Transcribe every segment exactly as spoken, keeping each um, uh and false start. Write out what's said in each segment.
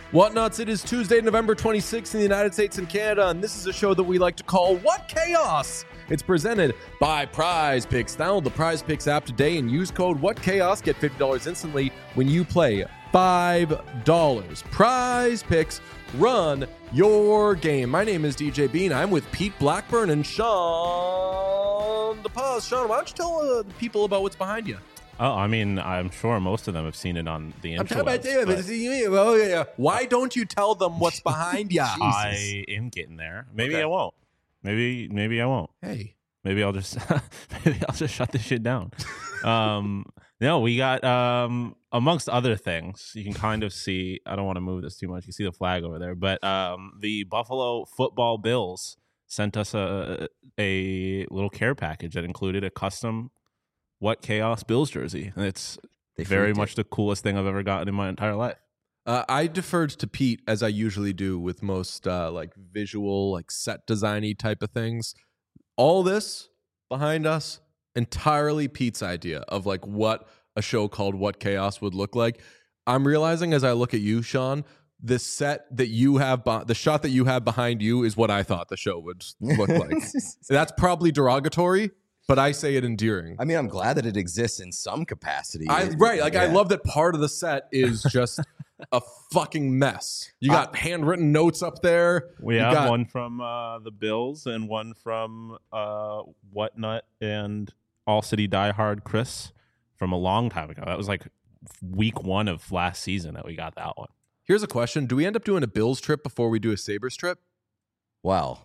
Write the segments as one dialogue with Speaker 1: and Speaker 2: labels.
Speaker 1: Whatnuts, it is Tuesday, November twenty-sixth in the United States and Canada, and this is a show that we like to call What Chaos? It's presented by Prize Picks. Download the Prize Picks app today and use code WhatChaos. Get fifty dollars instantly when you play five dollars. Prize Picks, run your game. My name is D J Bean. I'm with Pete Blackburn and Sean DePaz. Sean, why don't you tell uh, the people about what's behind you?
Speaker 2: Oh, I mean, I'm sure most of them have seen it on the
Speaker 1: I'm talking
Speaker 2: interwebs.
Speaker 1: about David. Oh, yeah, yeah. Why don't you tell them what's behind you?
Speaker 2: I am getting there. Maybe
Speaker 1: Okay.
Speaker 2: I won't. Maybe maybe I won't.
Speaker 1: Hey.
Speaker 2: Maybe I'll just maybe I'll just shut this shit down. um, no, we got um, amongst other things. You can kind of see. I don't want to move this too much. You see the flag over there, but um, the Buffalo Football Bills sent us a a little care package that included a custom What Chaos Bills jersey, and it's
Speaker 3: They
Speaker 2: very
Speaker 3: freaked
Speaker 2: much
Speaker 3: it.
Speaker 2: the coolest thing I've ever gotten in my entire life.
Speaker 1: Uh, I deferred to Pete, as I usually do with most uh, like visual, like set designy type of things. All this behind us, entirely Pete's idea of like what a show called What Chaos would look like. I'm realizing as I look at you, Sean, the set that you have, be- the shot that you have behind you is what I thought the show would look like. That's probably derogatory, but I say it endearing.
Speaker 3: I mean, I'm glad that it exists in some capacity.
Speaker 1: I, right, like I
Speaker 3: Yeah.
Speaker 1: love that part of the set is just a fucking mess. You got handwritten notes up there.
Speaker 2: We
Speaker 1: You
Speaker 2: have
Speaker 1: got-
Speaker 2: one from uh, the Bills and one from uh, Whatnut and All City Diehard Chris from a long time ago. That was like week one of last season that we got that one.
Speaker 1: Here's a question: do we end up doing a Bills trip before we do a Sabres trip?
Speaker 3: Well,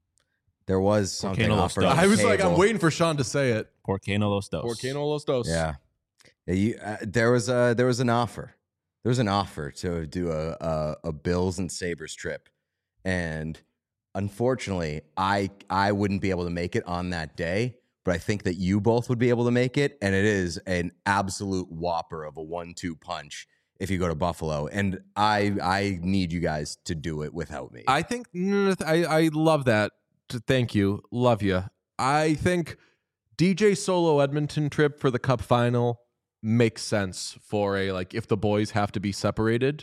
Speaker 3: there was something
Speaker 2: Volcano
Speaker 3: offered
Speaker 2: Los
Speaker 3: on
Speaker 1: I
Speaker 3: the
Speaker 1: was like, I'm
Speaker 3: table.
Speaker 1: waiting for Sean to say it.
Speaker 2: Por qué no los dos?
Speaker 1: Por qué no los dos?
Speaker 3: Yeah, yeah you, uh, there was a there was an offer. There was an offer to do a, a a Bills and Sabres trip, and unfortunately, I I wouldn't be able to make it on that day. But I think that you both would be able to make it, and it is an absolute whopper of a one two punch if you go to Buffalo. And I I need you guys to do it without me.
Speaker 1: I think mm, I I love that. Thank you, love you. I think D J solo Edmonton trip for the Cup final makes sense for a like if the boys have to be separated,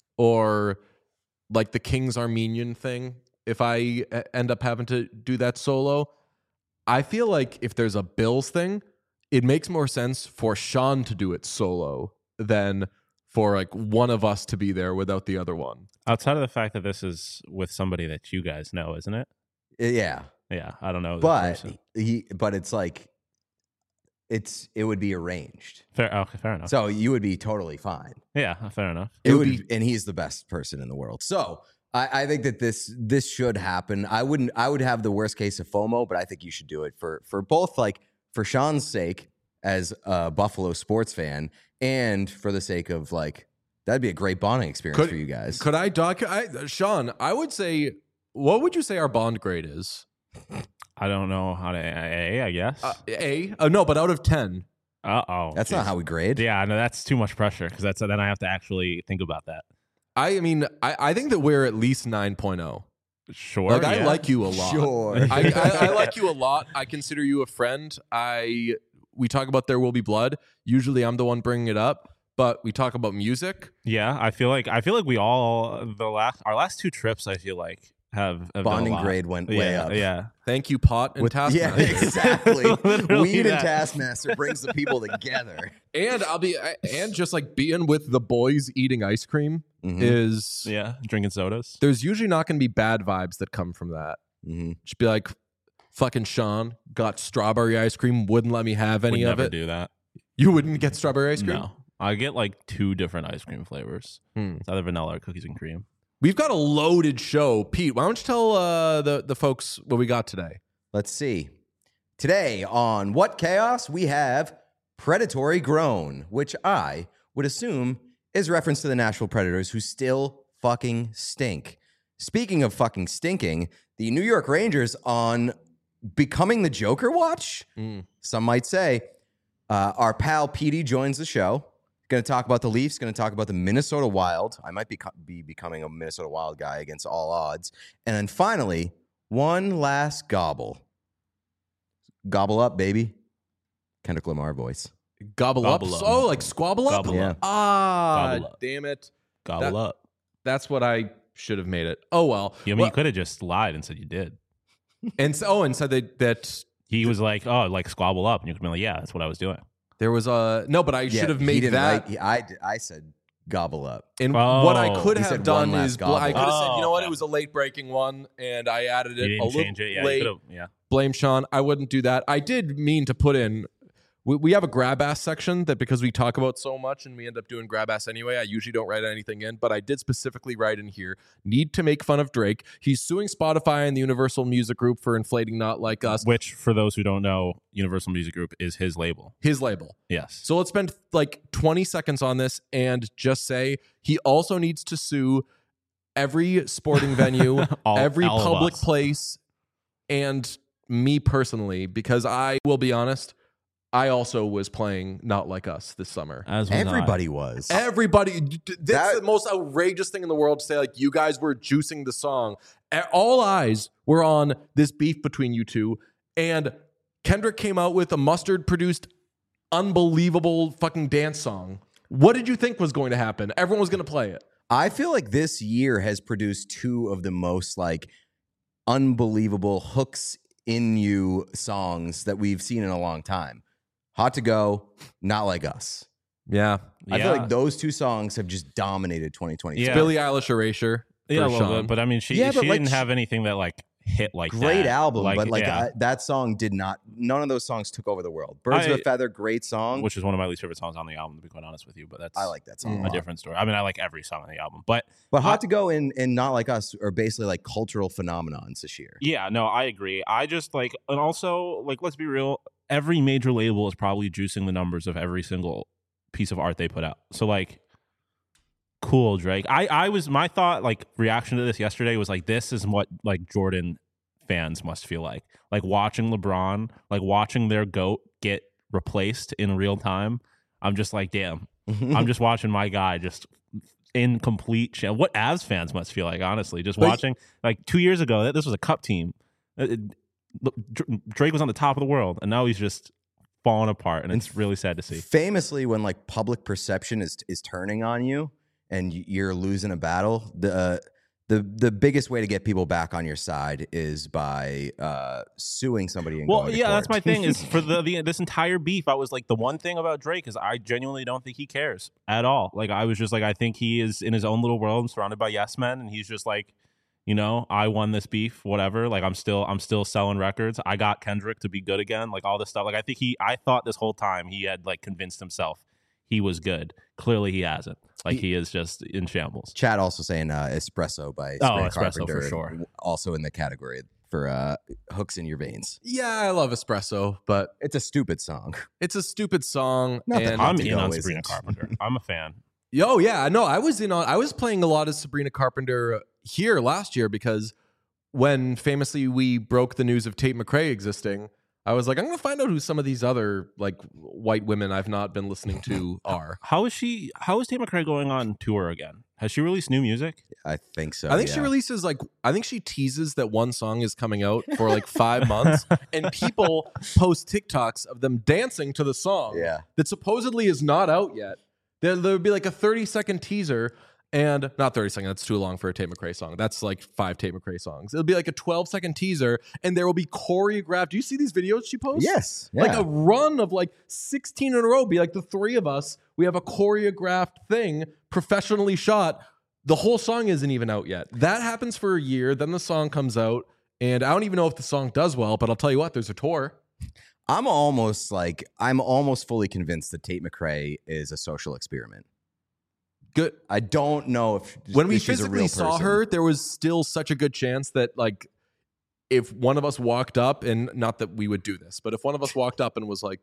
Speaker 1: or like the Kings Armenian thing. If I uh, end up having to do that solo, I feel like if there's a Bills thing, it makes more sense for Sean to do it solo than for like one of us to be there without the other one.
Speaker 2: Outside of the fact that this is with somebody that you guys know, isn't it?
Speaker 3: yeah,
Speaker 2: Yeah, I don't know. this
Speaker 3: but
Speaker 2: person.
Speaker 3: he but it's like it's it would be arranged,
Speaker 2: fair. Okay, fair enough.
Speaker 3: so you would be totally fine.
Speaker 2: yeah, fair enough.
Speaker 3: It,
Speaker 1: It
Speaker 3: would
Speaker 1: would
Speaker 3: be, and he's the best person in the world. So I, I think that this this should happen. I wouldn't. I would have the worst case of FOMO, but I think you should do it for for both, like for Sean's sake as a Buffalo sports fan, and for the sake of like that'd be a great bonding experience
Speaker 1: Could-
Speaker 3: for you guys.
Speaker 1: Could I doc? I, Sean, I would say, what would you say our bond grade is?
Speaker 2: I don't know how to A, I guess.
Speaker 1: Uh, a? Uh, no, but out of ten.
Speaker 2: Uh oh.
Speaker 3: That's not how we grade.
Speaker 2: Yeah, no, that's too much pressure because that's then I have to actually think about that.
Speaker 1: I mean, I, I think that we're at least nine point oh.
Speaker 2: Sure.
Speaker 1: Like, I
Speaker 2: yeah.
Speaker 1: like you a lot.
Speaker 3: Sure.
Speaker 1: I, I, I like you a lot. I consider you a friend. I We talk about There Will Be Blood. Usually I'm the one bringing it up, but we talk about music.
Speaker 2: Yeah, I feel like I feel like we all the last our last two trips. I feel like have, have done a
Speaker 3: Bonding
Speaker 2: lot.
Speaker 3: grade went
Speaker 2: yeah,
Speaker 3: way up.
Speaker 2: Yeah,
Speaker 1: Thank you, Pot and
Speaker 3: With- yeah,
Speaker 1: Taskmaster.
Speaker 3: exactly.
Speaker 2: Literally
Speaker 3: Weed and
Speaker 2: that.
Speaker 3: Taskmaster brings the people together.
Speaker 1: And I'll be and just like being with the boys eating ice cream
Speaker 3: Mhm.
Speaker 1: is
Speaker 2: yeah. Drinking sodas.
Speaker 1: there's usually not going to be bad vibes that come from that.
Speaker 3: Mhm.
Speaker 1: Just be like, fucking Sean got strawberry ice cream, wouldn't let me have any
Speaker 2: Would
Speaker 1: of
Speaker 2: never
Speaker 1: it.
Speaker 2: do that.
Speaker 1: You wouldn't get strawberry ice cream?
Speaker 2: No, I get like two different ice cream flavors.
Speaker 1: Hmm.
Speaker 2: It's either vanilla or cookies and cream.
Speaker 1: We've got a loaded show. Pete, why don't you tell uh, the, the folks what we got today?
Speaker 3: Let's see. Today on What Chaos, we have Predatory Grown, which I would assume is reference to the Nashville Predators, who still fucking stink. Speaking of fucking stinking, the New York Rangers on becoming the Joker watch,
Speaker 1: Mm.
Speaker 3: some might say. Uh, our pal Petey joins the show. Going to talk about the Leafs, going to talk about the Minnesota Wild. I might be, be becoming a Minnesota Wild guy against all odds. And then finally, one last gobble. Gobble up, baby. Kendrick Lamar voice.
Speaker 1: Gobble,
Speaker 2: Gobble
Speaker 1: up.
Speaker 2: up.
Speaker 1: Oh, like squabble up?
Speaker 2: Gobble
Speaker 3: Yeah.
Speaker 2: up.
Speaker 1: Ah,
Speaker 2: Gobble up.
Speaker 1: damn it.
Speaker 2: Gobble
Speaker 1: That-
Speaker 2: up.
Speaker 1: That's what I should have made it. Oh well.
Speaker 2: Yeah, I mean,
Speaker 1: Well,
Speaker 2: you could have just lied and said you did.
Speaker 1: and so, oh, and said that that
Speaker 2: He was like, "Oh, like squabble up," and you could be like, "Yeah, that's what I was doing."
Speaker 1: there was a no, but I
Speaker 3: Yeah,
Speaker 1: should have
Speaker 3: he
Speaker 1: made
Speaker 3: didn't
Speaker 1: that.
Speaker 3: write- he- I, d- I said gobble up.
Speaker 1: And
Speaker 2: Oh.
Speaker 1: what I could
Speaker 3: He
Speaker 1: have
Speaker 3: said
Speaker 1: done
Speaker 3: one last
Speaker 1: is bl- I could
Speaker 3: gobble.
Speaker 1: have said, you know
Speaker 2: Oh,
Speaker 1: what,
Speaker 2: okay.
Speaker 1: it was a late breaking one, and I added
Speaker 2: You
Speaker 1: it a
Speaker 2: didn't
Speaker 1: little
Speaker 2: change it. Yeah,
Speaker 1: late.
Speaker 2: you could have. Yeah.
Speaker 1: Blame Sean. I wouldn't do that. I did mean to put in. We, we have a grab ass section that because we talk about so much and we end up doing grab ass anyway. I usually don't write anything in, but I did specifically write in here. Need to make fun of Drake. He's suing Spotify and the Universal Music Group for inflating Not Like Us.
Speaker 2: Which, for those who don't know, Universal Music Group is his label.
Speaker 1: His label.
Speaker 2: Yes.
Speaker 1: So let's spend like twenty seconds on this and just say he also needs to sue every sporting venue,
Speaker 2: All-
Speaker 1: every
Speaker 2: all of
Speaker 1: public
Speaker 2: us.
Speaker 1: place, and me personally, because I will be honest, I also was playing Not Like Us this summer.
Speaker 2: As was
Speaker 3: Everybody was.
Speaker 1: Everybody, d- d- that's
Speaker 3: That-
Speaker 1: the most outrageous thing in the world to say, like, you guys were juicing the song. A- All eyes were on this beef between you two. And Kendrick came out with a mustard produced, unbelievable fucking dance song. What did you think was going to happen? Everyone was going to play it.
Speaker 3: I feel like this year has produced two of the most like unbelievable hooks in you songs that we've seen in a long time. Hot to Go, Not Like Us.
Speaker 1: Yeah.
Speaker 2: Yeah.
Speaker 3: I feel like those two songs have just dominated twenty twenty-two.
Speaker 2: Yeah.
Speaker 1: Billie Eilish Erasure. For
Speaker 2: yeah, a little
Speaker 1: Sean.
Speaker 2: bit, but I mean, she
Speaker 3: Yeah,
Speaker 2: she
Speaker 3: but, like,
Speaker 2: didn't
Speaker 3: sh-
Speaker 2: have anything that like hit like
Speaker 3: Great
Speaker 2: that.
Speaker 3: album, but like
Speaker 2: yeah,
Speaker 3: I, that song did not. None of those songs took over the world. Birds of
Speaker 2: I-
Speaker 3: a Feather, great song.
Speaker 2: which is one of my least favorite songs on the album, to be quite honest with you. But that's
Speaker 3: I like that song.
Speaker 1: Mm.
Speaker 3: a
Speaker 2: a
Speaker 3: lot.
Speaker 2: different story. I mean, I like every song on the album, but
Speaker 3: But Hot
Speaker 2: I-
Speaker 3: to Go and, and Not Like Us are basically like cultural phenomenons this year.
Speaker 2: yeah, no, I agree. I just like, and also like, let's be real. Every major label is probably juicing the numbers of every single piece of art they put out. So like, cool, Drake. I I was my thought like reaction to this yesterday was like, this is what like Jordan fans must feel like, like watching LeBron, like watching their GOAT get replaced in real time. I'm just like, damn. I'm just watching my guy just in complete sh- what Avs fans must feel like, honestly, just
Speaker 1: But-
Speaker 2: watching like two years ago, this was a cup team. It- it- Dr- Drake was on the top of the world, and now he's just falling apart, and it's really sad to see.
Speaker 3: Famously, when like public perception is is turning on you and y- you're losing a battle, the uh, the the biggest way to get people back on your side is by uh, suing somebody. And
Speaker 2: Well,
Speaker 3: going to
Speaker 2: yeah, that's
Speaker 3: court.
Speaker 2: my thing. Is for the, the this entire beef, I was like, the one thing about Drake is I genuinely don't think he cares at all. Like, I was just like, I think he is in his own little world, and surrounded by yes men, and he's just like, you know, I won this beef, whatever. Like, I'm still, I'm still selling records. I got Kendrick to be good again. Like all this stuff. Like, I think he, I thought this whole time he had like convinced himself he was good. Clearly, he hasn't. Like, he,
Speaker 3: He-
Speaker 2: is just in shambles.
Speaker 3: Chad also saying uh, Espresso by
Speaker 2: Oh,
Speaker 3: Sabrina
Speaker 2: Espresso for
Speaker 3: Carpenter,
Speaker 2: sure.
Speaker 3: also in the category for uh, hooks in your veins.
Speaker 1: Yeah, I love Espresso, but
Speaker 3: It's a stupid song.
Speaker 1: it's a stupid song.
Speaker 3: Not that
Speaker 1: and
Speaker 2: I'm
Speaker 3: to
Speaker 2: in
Speaker 3: go
Speaker 2: on
Speaker 3: isn't.
Speaker 2: Sabrina Carpenter. I'm a fan.
Speaker 1: Oh yeah, no, I was in on. I was playing a lot of Sabrina Carpenter here last year because when famously we broke the news of Tate McRae existing, I was like, I'm gonna find out who some of these other like white women I've not been listening to are.
Speaker 2: How is she? How is Tate McRae going on tour again? Has she released new music?
Speaker 3: I think so.
Speaker 1: I think she
Speaker 3: yeah.
Speaker 1: releases like I think she teases that one song is coming out for like five months, and people post TikToks of them dancing to the song.
Speaker 3: Yeah.
Speaker 1: that supposedly is not out yet. There, there would be like a thirty second teaser, and not thirty second, that's too long for a Tate McRae song. That's like five Tate McRae songs. It'll be like a twelve second teaser, and there will be choreographed. Do you see these videos she posts?
Speaker 3: Yes.
Speaker 1: Like
Speaker 3: yeah.
Speaker 1: a run of like sixteen in a row. Be like the three of us. We have a choreographed thing, professionally shot. The whole song isn't even out yet. That happens for a year. Then the song comes out, and I don't even know if the song does well, but I'll tell you what, there's a tour.
Speaker 3: I'm almost like I'm almost fully convinced that Tate McRae is a social experiment.
Speaker 1: Good.
Speaker 3: I don't know if
Speaker 1: When we
Speaker 3: if she's a
Speaker 1: physically
Speaker 3: real
Speaker 1: saw
Speaker 3: person.
Speaker 1: her, there was still such a good chance that like if one of us walked up, and not that we would do this, but if one of us walked up and was like,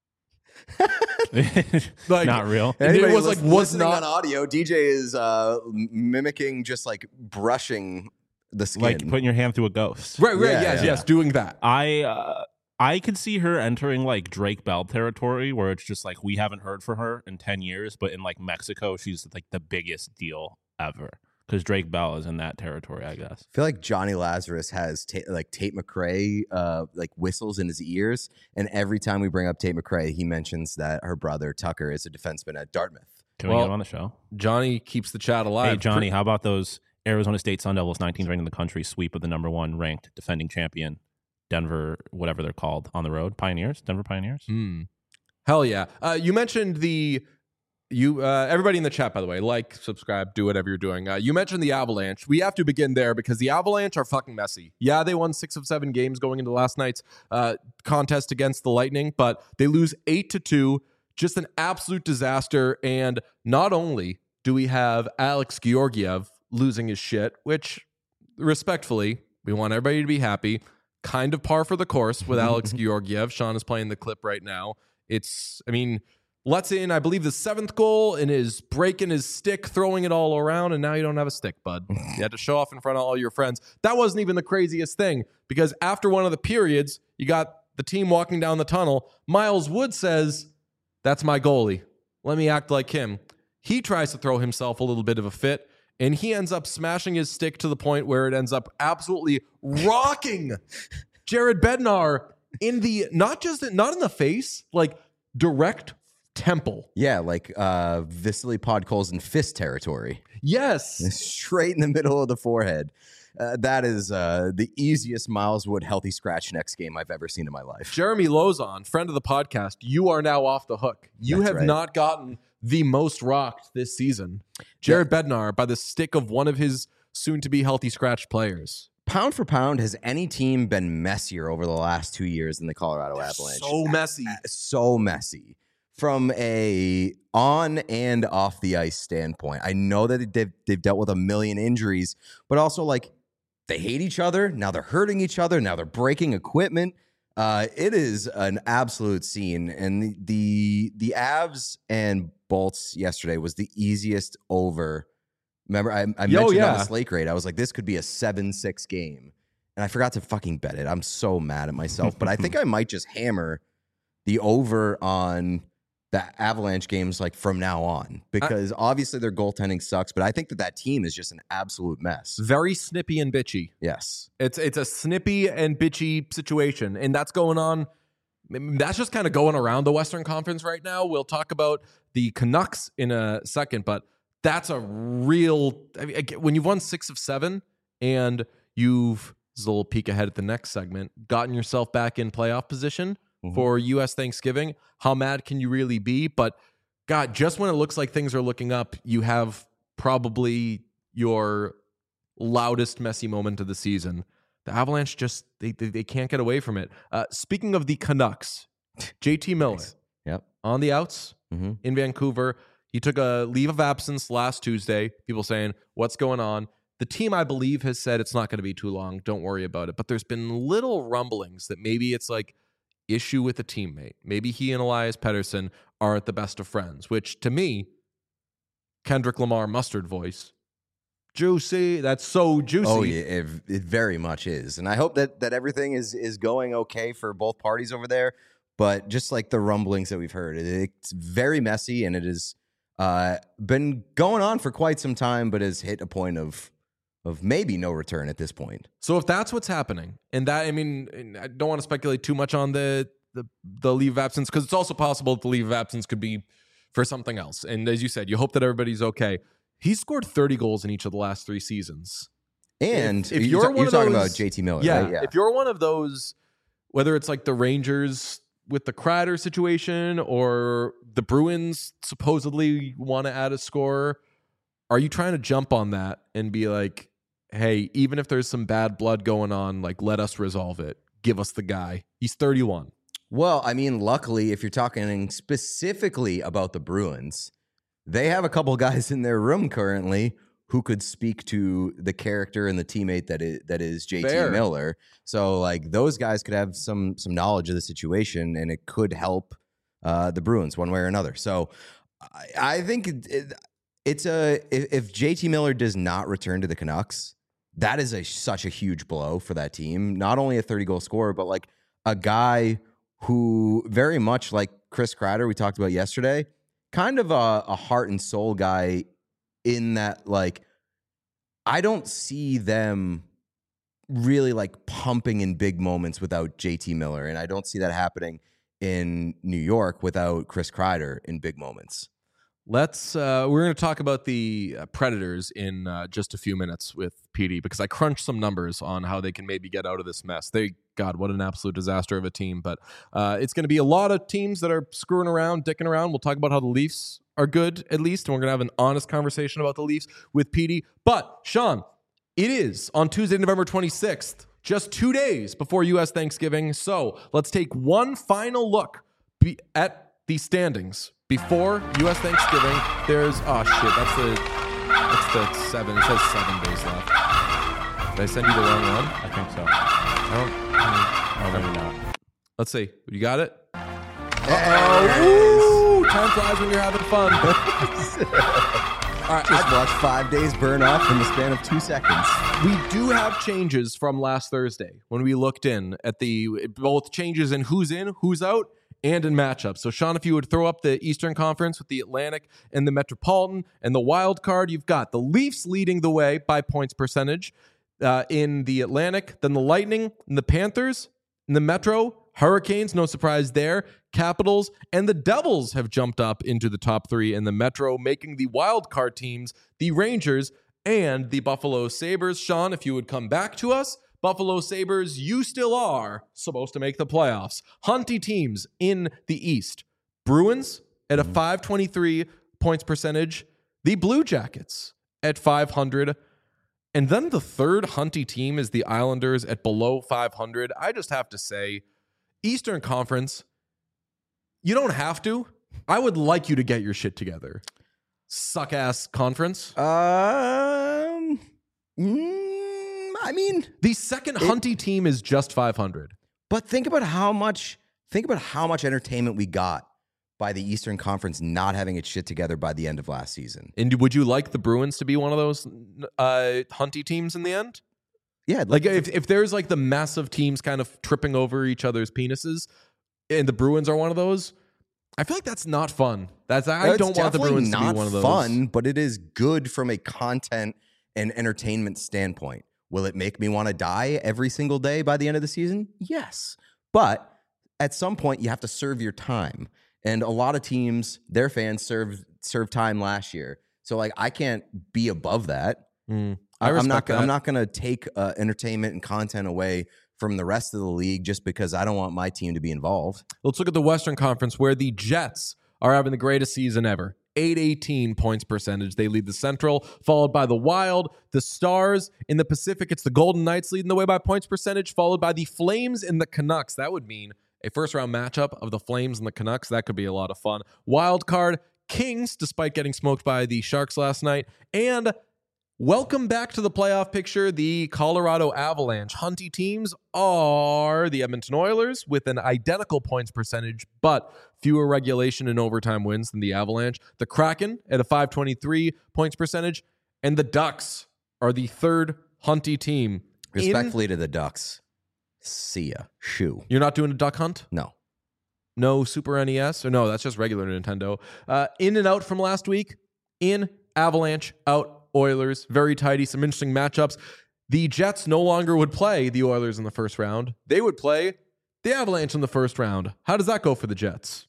Speaker 1: like
Speaker 2: Not real.
Speaker 1: and it
Speaker 3: Anybody
Speaker 1: was like
Speaker 3: lis-
Speaker 1: was
Speaker 3: listening
Speaker 1: not
Speaker 3: on audio. D J is uh, m- mimicking just like brushing the skin.
Speaker 2: Like putting your hand through a ghost.
Speaker 1: right, right,
Speaker 3: Yeah,
Speaker 1: yes,
Speaker 3: yeah.
Speaker 1: yes, doing that.
Speaker 2: I uh, I could see her entering like Drake Bell territory, where it's just like we haven't heard from her in ten years, but in like Mexico, she's like the biggest deal ever because Drake Bell is in that territory, I guess.
Speaker 3: I feel like Johnny Lazarus has ta- like Tate McRae, uh, like whistles in his ears, and every time we bring up Tate McRae, he mentions that her brother Tucker is a defenseman at Dartmouth.
Speaker 2: Can
Speaker 1: Well,
Speaker 2: we get him on the show?
Speaker 1: Johnny keeps the chat alive.
Speaker 2: Hey, Johnny, how about those Arizona State Sun Devils, nineteenth ranked in the country, sweep of the number one ranked defending champion, Denver, whatever they're called, on the road? Pioneers? Denver Pioneers?
Speaker 1: Hmm. Hell yeah. Uh, you mentioned the you uh, everybody in the chat, by the way, like, subscribe, do whatever you're doing. Uh, you mentioned the Avalanche. We have to begin there because the Avalanche are fucking messy. Yeah, they won six of seven games going into last night's uh, contest against the Lightning, but they lose eight to two. Just an absolute disaster. And not only do we have Alex Georgiev losing his shit, which respectfully, we want everybody to be happy. Kind of par for the course with Alex Georgiev. Sean is playing the clip right now. It's, I mean, lets in, I believe, the seventh goal and is breaking his stick, throwing it all around, and now you don't have a stick, bud. You had to show off in front of all your friends. That wasn't even the craziest thing, because after one of the periods, you got the team walking down the tunnel. Miles Wood says, "That's my goalie. Let me act like him." He tries to throw himself a little bit of a fit, and he ends up smashing his stick to the point where it ends up absolutely rocking Jared Bednar in the, not just, not in the face, like direct temple.
Speaker 3: Yeah, like uh, Vasily Podkolzin fist territory.
Speaker 1: Yes.
Speaker 3: Straight in the middle of the forehead. Uh, that is uh, the easiest Miles Wood healthy scratch next game I've ever seen in my life.
Speaker 1: Jeremy Lozon, friend of the podcast, you are now off the hook. You
Speaker 3: That's
Speaker 1: have
Speaker 3: right.
Speaker 1: not gotten the most rocked this season. Jared Bednar by the stick of one of his soon-to-be healthy scratch players.
Speaker 3: Pound for pound, has any team been messier over the last two years than the Colorado Avalanche?
Speaker 1: So messy.
Speaker 3: Uh, So messy. From a on and off the ice standpoint. I know that they've, they've dealt with a million injuries, but also like they hate each other. Now they're hurting each other. Now they're breaking equipment. Uh, it is an absolute scene. And the, the the Avs and Bolts yesterday was the easiest over. Remember, I, I
Speaker 1: Yo,
Speaker 3: mentioned
Speaker 1: yeah.
Speaker 3: on the slate grade, I was like, this could be a seven six game. And I forgot to fucking bet it. I'm so mad at myself. But I think I might just hammer the over on the Avalanche games like from now on, because obviously their goaltending sucks, but I think that that team is just an absolute mess.
Speaker 1: Very snippy and bitchy.
Speaker 3: Yes.
Speaker 1: It's it's a snippy and bitchy situation, and that's going on. That's just kind of going around the Western Conference right now. We'll talk about the Canucks in a second, but that's a real. I mean, when you've won six of seven and you've, this is a little peek ahead at the next segment, gotten yourself back in playoff position
Speaker 3: Mhm.
Speaker 1: for U S Thanksgiving, how mad can you really be? But God, just when it looks like things are looking up, you have probably your loudest messy moment of the season. The Avalanche just, they they, they can't get away from it. Uh, speaking of the Canucks, J T Miller
Speaker 3: Nice. Yep.
Speaker 1: on the outs
Speaker 3: Mm-hmm.
Speaker 1: in Vancouver. He took a leave of absence last Tuesday. People saying, what's going on? The team, I believe, has said it's not going to be too long. Don't worry about it. But there's been little rumblings that maybe it's like issue with a teammate. Maybe he and Elias Pettersson aren't the best of friends, which to me, Kendrick Lamar mustard voice, juicy. That's so juicy.
Speaker 3: Oh yeah, it, it very much is, and I hope that that everything is is going okay for both parties over there. But just like the rumblings that we've heard, it, it's very messy, and it has uh, been going on for quite some time, but has hit a point of of maybe no return at this point.
Speaker 1: So if that's what's happening, and that, I mean, I don't want to speculate too much on the the, the leave of absence, because it's also possible that the leave of absence could be for something else. And as you said, you hope that everybody's okay. He's scored thirty goals in each of the last three seasons.
Speaker 3: And
Speaker 1: If- if
Speaker 3: you
Speaker 1: you're
Speaker 3: ta-
Speaker 1: one
Speaker 3: you're
Speaker 1: of
Speaker 3: talking
Speaker 1: those-
Speaker 3: about J T Miller,
Speaker 1: Yeah,
Speaker 3: right? Yeah.
Speaker 1: if you're one of those, whether it's like the Rangers with the Kreider situation or the Bruins supposedly want to add a scorer, are you trying to jump on that and be like, hey, even if there's some bad blood going on, like, let us resolve it. Give us the guy. He's thirty-one.
Speaker 3: Well, I mean, luckily, if you're talking specifically about the Bruins, they have a couple guys in their room currently who could speak to the character and the teammate that is, that is J T
Speaker 1: Fair.
Speaker 3: Miller. So, like, those guys could have some some knowledge of the situation, and it could help uh, the Bruins one way or another. So, I, I think it, it, it's a if, if J T Miller does not return to the Canucks, that is a such a huge blow for that team. Not only a thirty goal scorer, but like a guy who very much like Chris Kreider we talked about yesterday, kind of a, a heart and soul guy in that, like, I don't see them really like pumping in big moments without J T Miller, and I don't see that happening in New York without Chris Kreider in big moments.
Speaker 1: Let's. Uh, we're going to talk about the uh, Predators in uh, just a few minutes with P D because I crunched some numbers on how they can maybe get out of this mess. They, God, what an absolute disaster of a team. But uh, it's going to be a lot of teams that are screwing around, dicking around. We'll talk about how the Leafs are good at least, and we're going to have an honest conversation about the Leafs with P D. But Sean, it is on Tuesday, November twenty-sixth, just two days before U S Thanksgiving. So let's take one final look be- at the standings. Before U S Thanksgiving, there's, oh shit, that's the, that's the seven, it says seven days left. Did I send you the wrong one?
Speaker 2: I think so.
Speaker 1: I don't,
Speaker 2: Oh, maybe not.
Speaker 1: let's see. You got it?
Speaker 3: Uh-oh.
Speaker 1: Ooh, time flies when you're having fun. All right,
Speaker 3: Just watch five days burn off in the span of two seconds.
Speaker 1: we do have changes from last Thursday when we looked in at the, both changes in who's in, who's out, and in matchups. So, Sean, if you would throw up the Eastern Conference with the Atlantic and the Metropolitan and the wild card, you've got the Leafs leading the way by points percentage uh, in the Atlantic, then the Lightning and the Panthers in the Metro, Hurricanes, no surprise there, Capitals, and the Devils have jumped up into the top three in the Metro, making the wild card teams the Rangers and the Buffalo Sabres. Sean, if you would come back to us, Buffalo Sabres, you still are supposed to make the playoffs. Hunty teams in the East. Bruins at a five twenty-three points percentage. The Blue Jackets at five hundred. And then the third Hunty team is the Islanders at below five hundred. I just have to say, Eastern Conference, you don't have to. I would like you to get your shit together. Suck-ass conference.
Speaker 3: Um, mm, I mean,
Speaker 1: The second
Speaker 3: It-
Speaker 1: Hunty team is just five hundred.
Speaker 3: but think about how much think about how much entertainment we got by the Eastern Conference not having its shit together by the end of last season.
Speaker 1: And would you like the Bruins to be one of those uh, Hunty teams in the end?
Speaker 3: Yeah,
Speaker 1: Like if, if there's like the massive teams kind of tripping over each other's penises and the Bruins are one of those, I feel like that's not fun. That's I
Speaker 3: It's
Speaker 1: don't want the
Speaker 3: definitely
Speaker 1: Bruins to
Speaker 3: not
Speaker 1: be one of those.
Speaker 3: fun, but it is good from a content and entertainment standpoint. Will it make me want to die every single day by the end of the season? Yes. But at some point you have to serve your time. And a lot of teams, their fans served served time last year. So like I can't be above that.
Speaker 1: Mm, I
Speaker 3: I'm not
Speaker 1: respect
Speaker 3: gonna,
Speaker 1: that.
Speaker 3: I'm not going to take uh, entertainment and content away from the rest of the league just because I don't want my team to be involved.
Speaker 1: Let's look at the Western Conference where the Jets are having the greatest season ever. eight eighteen points percentage. They lead the Central, followed by the Wild, the Stars. In the Pacific, it's the Golden Knights leading the way by points percentage, followed by the Flames and the Canucks. That would mean a first-round matchup of the Flames and the Canucks. That could be a lot of fun. Wild card, Kings, despite getting smoked by the Sharks last night. And welcome back to the playoff picture, the Colorado Avalanche. Hunty teams are the Edmonton Oilers with an identical points percentage, but fewer regulation and overtime wins than the Avalanche. The Kraken at a five twenty-three points percentage, and the Ducks are the third Hunty team. In-
Speaker 3: Respectfully to the Ducks, see ya. Shoo.
Speaker 1: You're not doing a duck hunt?
Speaker 3: No.
Speaker 1: No Super N E S? Or no, that's just regular Nintendo. Uh, in and out from last week. In, Avalanche, out, Oilers. Very tidy. Some interesting matchups. The Jets no longer would play the Oilers in the first round. They would play the Avalanche in the first round. How does that go for the Jets?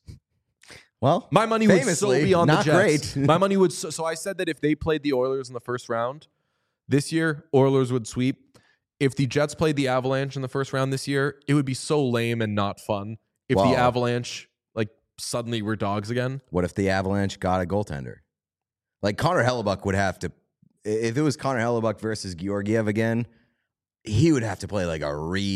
Speaker 3: Well,
Speaker 1: My money would so
Speaker 3: famously,
Speaker 1: be on
Speaker 3: not
Speaker 1: the Jets.
Speaker 3: great.
Speaker 1: My money would. So, so I said that if they played the Oilers in the first round this year, Oilers would sweep. If the Jets played the Avalanche in the first round this year, it would be so lame and not fun. If
Speaker 3: Wow.
Speaker 1: the Avalanche like suddenly were dogs again.
Speaker 3: What if the Avalanche got a goaltender? Like Connor Hellebuck would have to, if it was Connor Hellebuck versus Georgiev again, he would have to play like a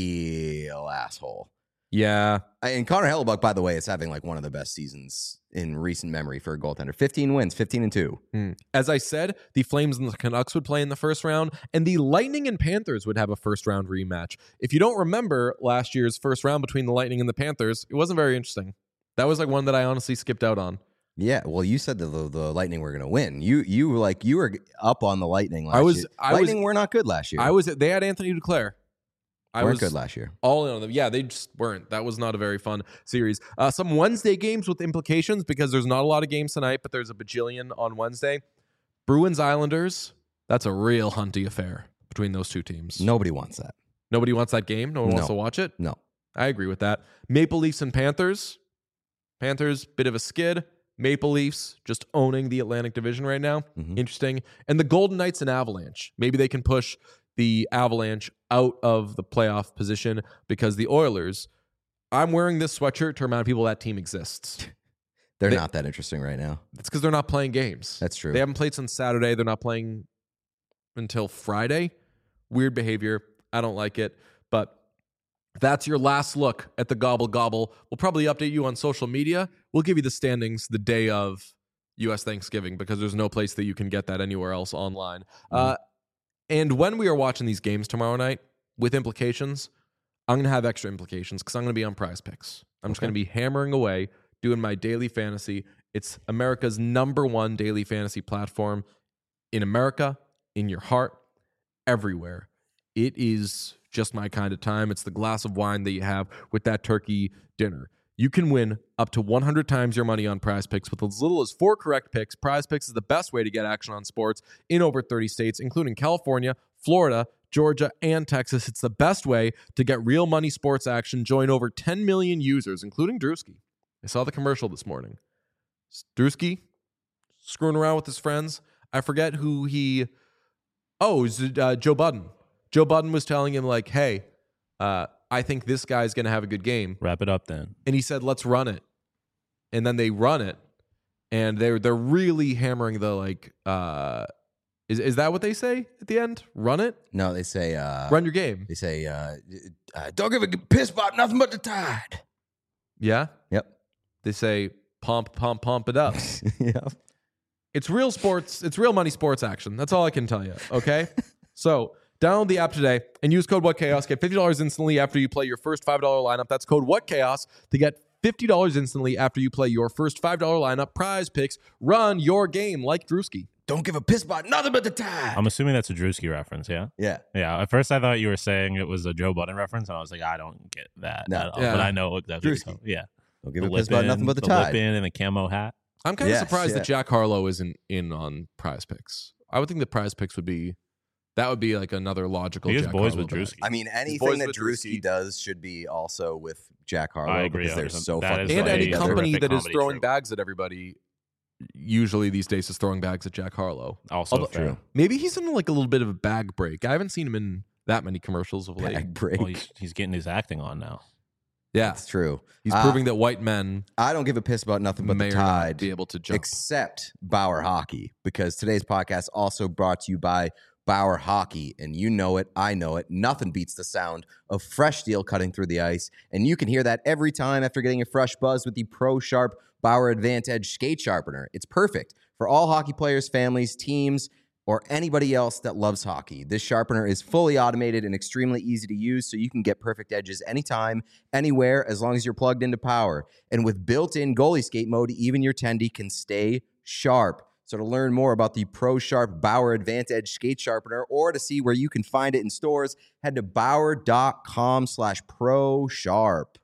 Speaker 3: real asshole.
Speaker 1: Yeah.
Speaker 3: And Connor Hellebuck, by the way, is having like one of the best seasons in recent memory for a goaltender. fifteen wins, fifteen and two.
Speaker 1: Hmm. As I said, the Flames and the Canucks would play in the first round, and the Lightning and Panthers would have a first round rematch. If you don't remember last year's first round between the Lightning and the Panthers, it wasn't very interesting. That was like one that I honestly skipped out on.
Speaker 3: Yeah, well, you said that the, the Lightning were going to win. You you were like you were up on the Lightning last
Speaker 1: I was-
Speaker 3: year.
Speaker 1: I was-
Speaker 3: Lightning were not good last year.
Speaker 1: I was they had Anthony Duclair. I
Speaker 3: weren't
Speaker 1: was
Speaker 3: good last year.
Speaker 1: all in on them. Yeah, they just weren't. That was not a very fun series. Uh, some Wednesday games with implications because there's not a lot of games tonight, but there's a bajillion on Wednesday. Bruins Islanders. That's a real hunty affair between those two teams.
Speaker 3: Nobody wants that.
Speaker 1: Nobody wants that game. No one
Speaker 3: No.
Speaker 1: wants to watch it.
Speaker 3: No.
Speaker 1: I agree with that. Maple Leafs and Panthers. Panthers, bit of a skid. Maple Leafs just owning the Atlantic Division right now.
Speaker 3: Mhm.
Speaker 1: Interesting. And the Golden Knights and Avalanche. Maybe they can push the Avalanche out of the playoff position because the Oilers, I'm wearing this sweatshirt to remind people that team exists.
Speaker 3: They're
Speaker 1: They-
Speaker 3: not that interesting right now.
Speaker 1: It's because they're not playing games.
Speaker 3: That's true.
Speaker 1: They haven't played since Saturday. They're not playing until Friday. Weird behavior. I don't like it. But that's your last look at the Gobble Gobble. We'll probably update you on social media. We'll give you the standings the day of U S Thanksgiving because there's no place that you can get that anywhere else online.
Speaker 3: Mm-hmm.
Speaker 1: Uh, and when we are watching these games tomorrow night with implications, I'm going to have extra implications because I'm going to be on Prize Picks. I'm just
Speaker 3: Okay.
Speaker 1: going to be hammering away, doing my daily fantasy. It's America's number one daily fantasy platform in America, in your heart, everywhere. It is just my kind of time. It's the glass of wine that you have with that turkey dinner. You can win up to one hundred times your money on Prize Picks with as little as four correct picks. Prize Picks is the best way to get action on sports in over thirty states, including California, Florida, Georgia, and Texas. It's the best way to get real money sports action. Join over ten million users, including Drewski. I saw the commercial this morning. Drewski screwing around with his friends. I forget who he... Oh, it was, uh, Joe Budden. Joe Budden was telling him, like, hey, uh, I think this guy's going to have a good game.
Speaker 2: Wrap it up then.
Speaker 1: And he said, let's run it. And then they run it. And they're, they're really hammering the, like, uh, is, is that what they say at the end? Run it?
Speaker 3: No, they say uh,
Speaker 1: Run your game.
Speaker 3: They say uh, uh, don't give a piss about nothing but the tide.
Speaker 1: Yeah?
Speaker 3: Yep.
Speaker 1: They say, pump, pump, pump it up.
Speaker 3: Yep.
Speaker 1: It's real sports. It's real money sports action. That's all I can tell you. Okay. So download the app today and use code WhatChaos. Get fifty dollars instantly after you play your first five dollar lineup. That's code WhatChaos to get fifty dollars instantly after you play your first five dollar lineup. Prize Picks. Run your game like Drewski.
Speaker 3: Don't give a piss about nothing but the tide.
Speaker 2: I'm assuming that's a Drewski reference, yeah?
Speaker 3: yeah.
Speaker 2: Yeah. At first, I thought you were saying it was a Joe Budden reference, and I was like, I don't get that.
Speaker 3: No.
Speaker 2: at all.
Speaker 1: Yeah.
Speaker 2: But I know exactly what
Speaker 3: Drewski.
Speaker 2: you're talking- Yeah.
Speaker 3: Don't give
Speaker 2: The
Speaker 3: a piss about
Speaker 2: lip-in,
Speaker 3: nothing but the,
Speaker 2: the
Speaker 3: tide.
Speaker 2: lip-in and the camo hat.
Speaker 1: I'm kind of
Speaker 3: Yes,
Speaker 1: surprised
Speaker 3: yeah.
Speaker 1: that Jack Harlow isn't in on Prize Picks. I would think the Prize Picks would be that would be like another logical.
Speaker 2: He is
Speaker 1: Jack
Speaker 2: boys
Speaker 1: Harlow
Speaker 2: with
Speaker 1: bet.
Speaker 2: Drewski.
Speaker 3: I mean,
Speaker 1: boys
Speaker 3: anything that
Speaker 1: with
Speaker 3: Drewski
Speaker 1: Drewski.
Speaker 3: does should be also with Jack Harlow
Speaker 2: I agree,
Speaker 3: because they're
Speaker 2: Anderson.
Speaker 3: so
Speaker 2: That
Speaker 3: fucking
Speaker 2: is
Speaker 1: And
Speaker 2: like
Speaker 1: any
Speaker 2: a
Speaker 3: together.
Speaker 1: company
Speaker 2: terrific
Speaker 1: that is
Speaker 2: comedy
Speaker 1: throwing
Speaker 2: troupe.
Speaker 1: bags at everybody, usually these days is throwing bags at Jack Harlow.
Speaker 2: Also
Speaker 1: Although-
Speaker 2: fair.
Speaker 3: True.
Speaker 1: Maybe he's in like a little bit of a bag break. I haven't seen him in that many commercials of late.
Speaker 3: Bag break.
Speaker 2: Well, he's, he's getting his acting on now.
Speaker 1: Yeah,
Speaker 3: That's true.
Speaker 1: he's
Speaker 3: Uh,
Speaker 1: proving that white men
Speaker 3: I don't give a piss about nothing but
Speaker 1: may
Speaker 3: the
Speaker 1: or not
Speaker 3: tide.
Speaker 1: be able to jump.
Speaker 3: Except Bauer Hockey, because today's podcast also brought to you by Bauer Hockey, and you know it, I know it. Nothing beats the sound of fresh steel cutting through the ice, and you can hear that every time after getting a fresh buzz with the Pro Sharp Bauer Advantage Skate Sharpener. It's perfect for all hockey players, families, teams, or anybody else that loves hockey. This sharpener is fully automated and extremely easy to use, so you can get perfect edges anytime, anywhere, as long as you're plugged into power. And with built-in goalie skate mode, even your tendy can stay sharp. So to learn more about the Pro Sharp Bauer Advantage Skate Sharpener or to see where you can find it in stores, head to bauer.com slash pro sharp.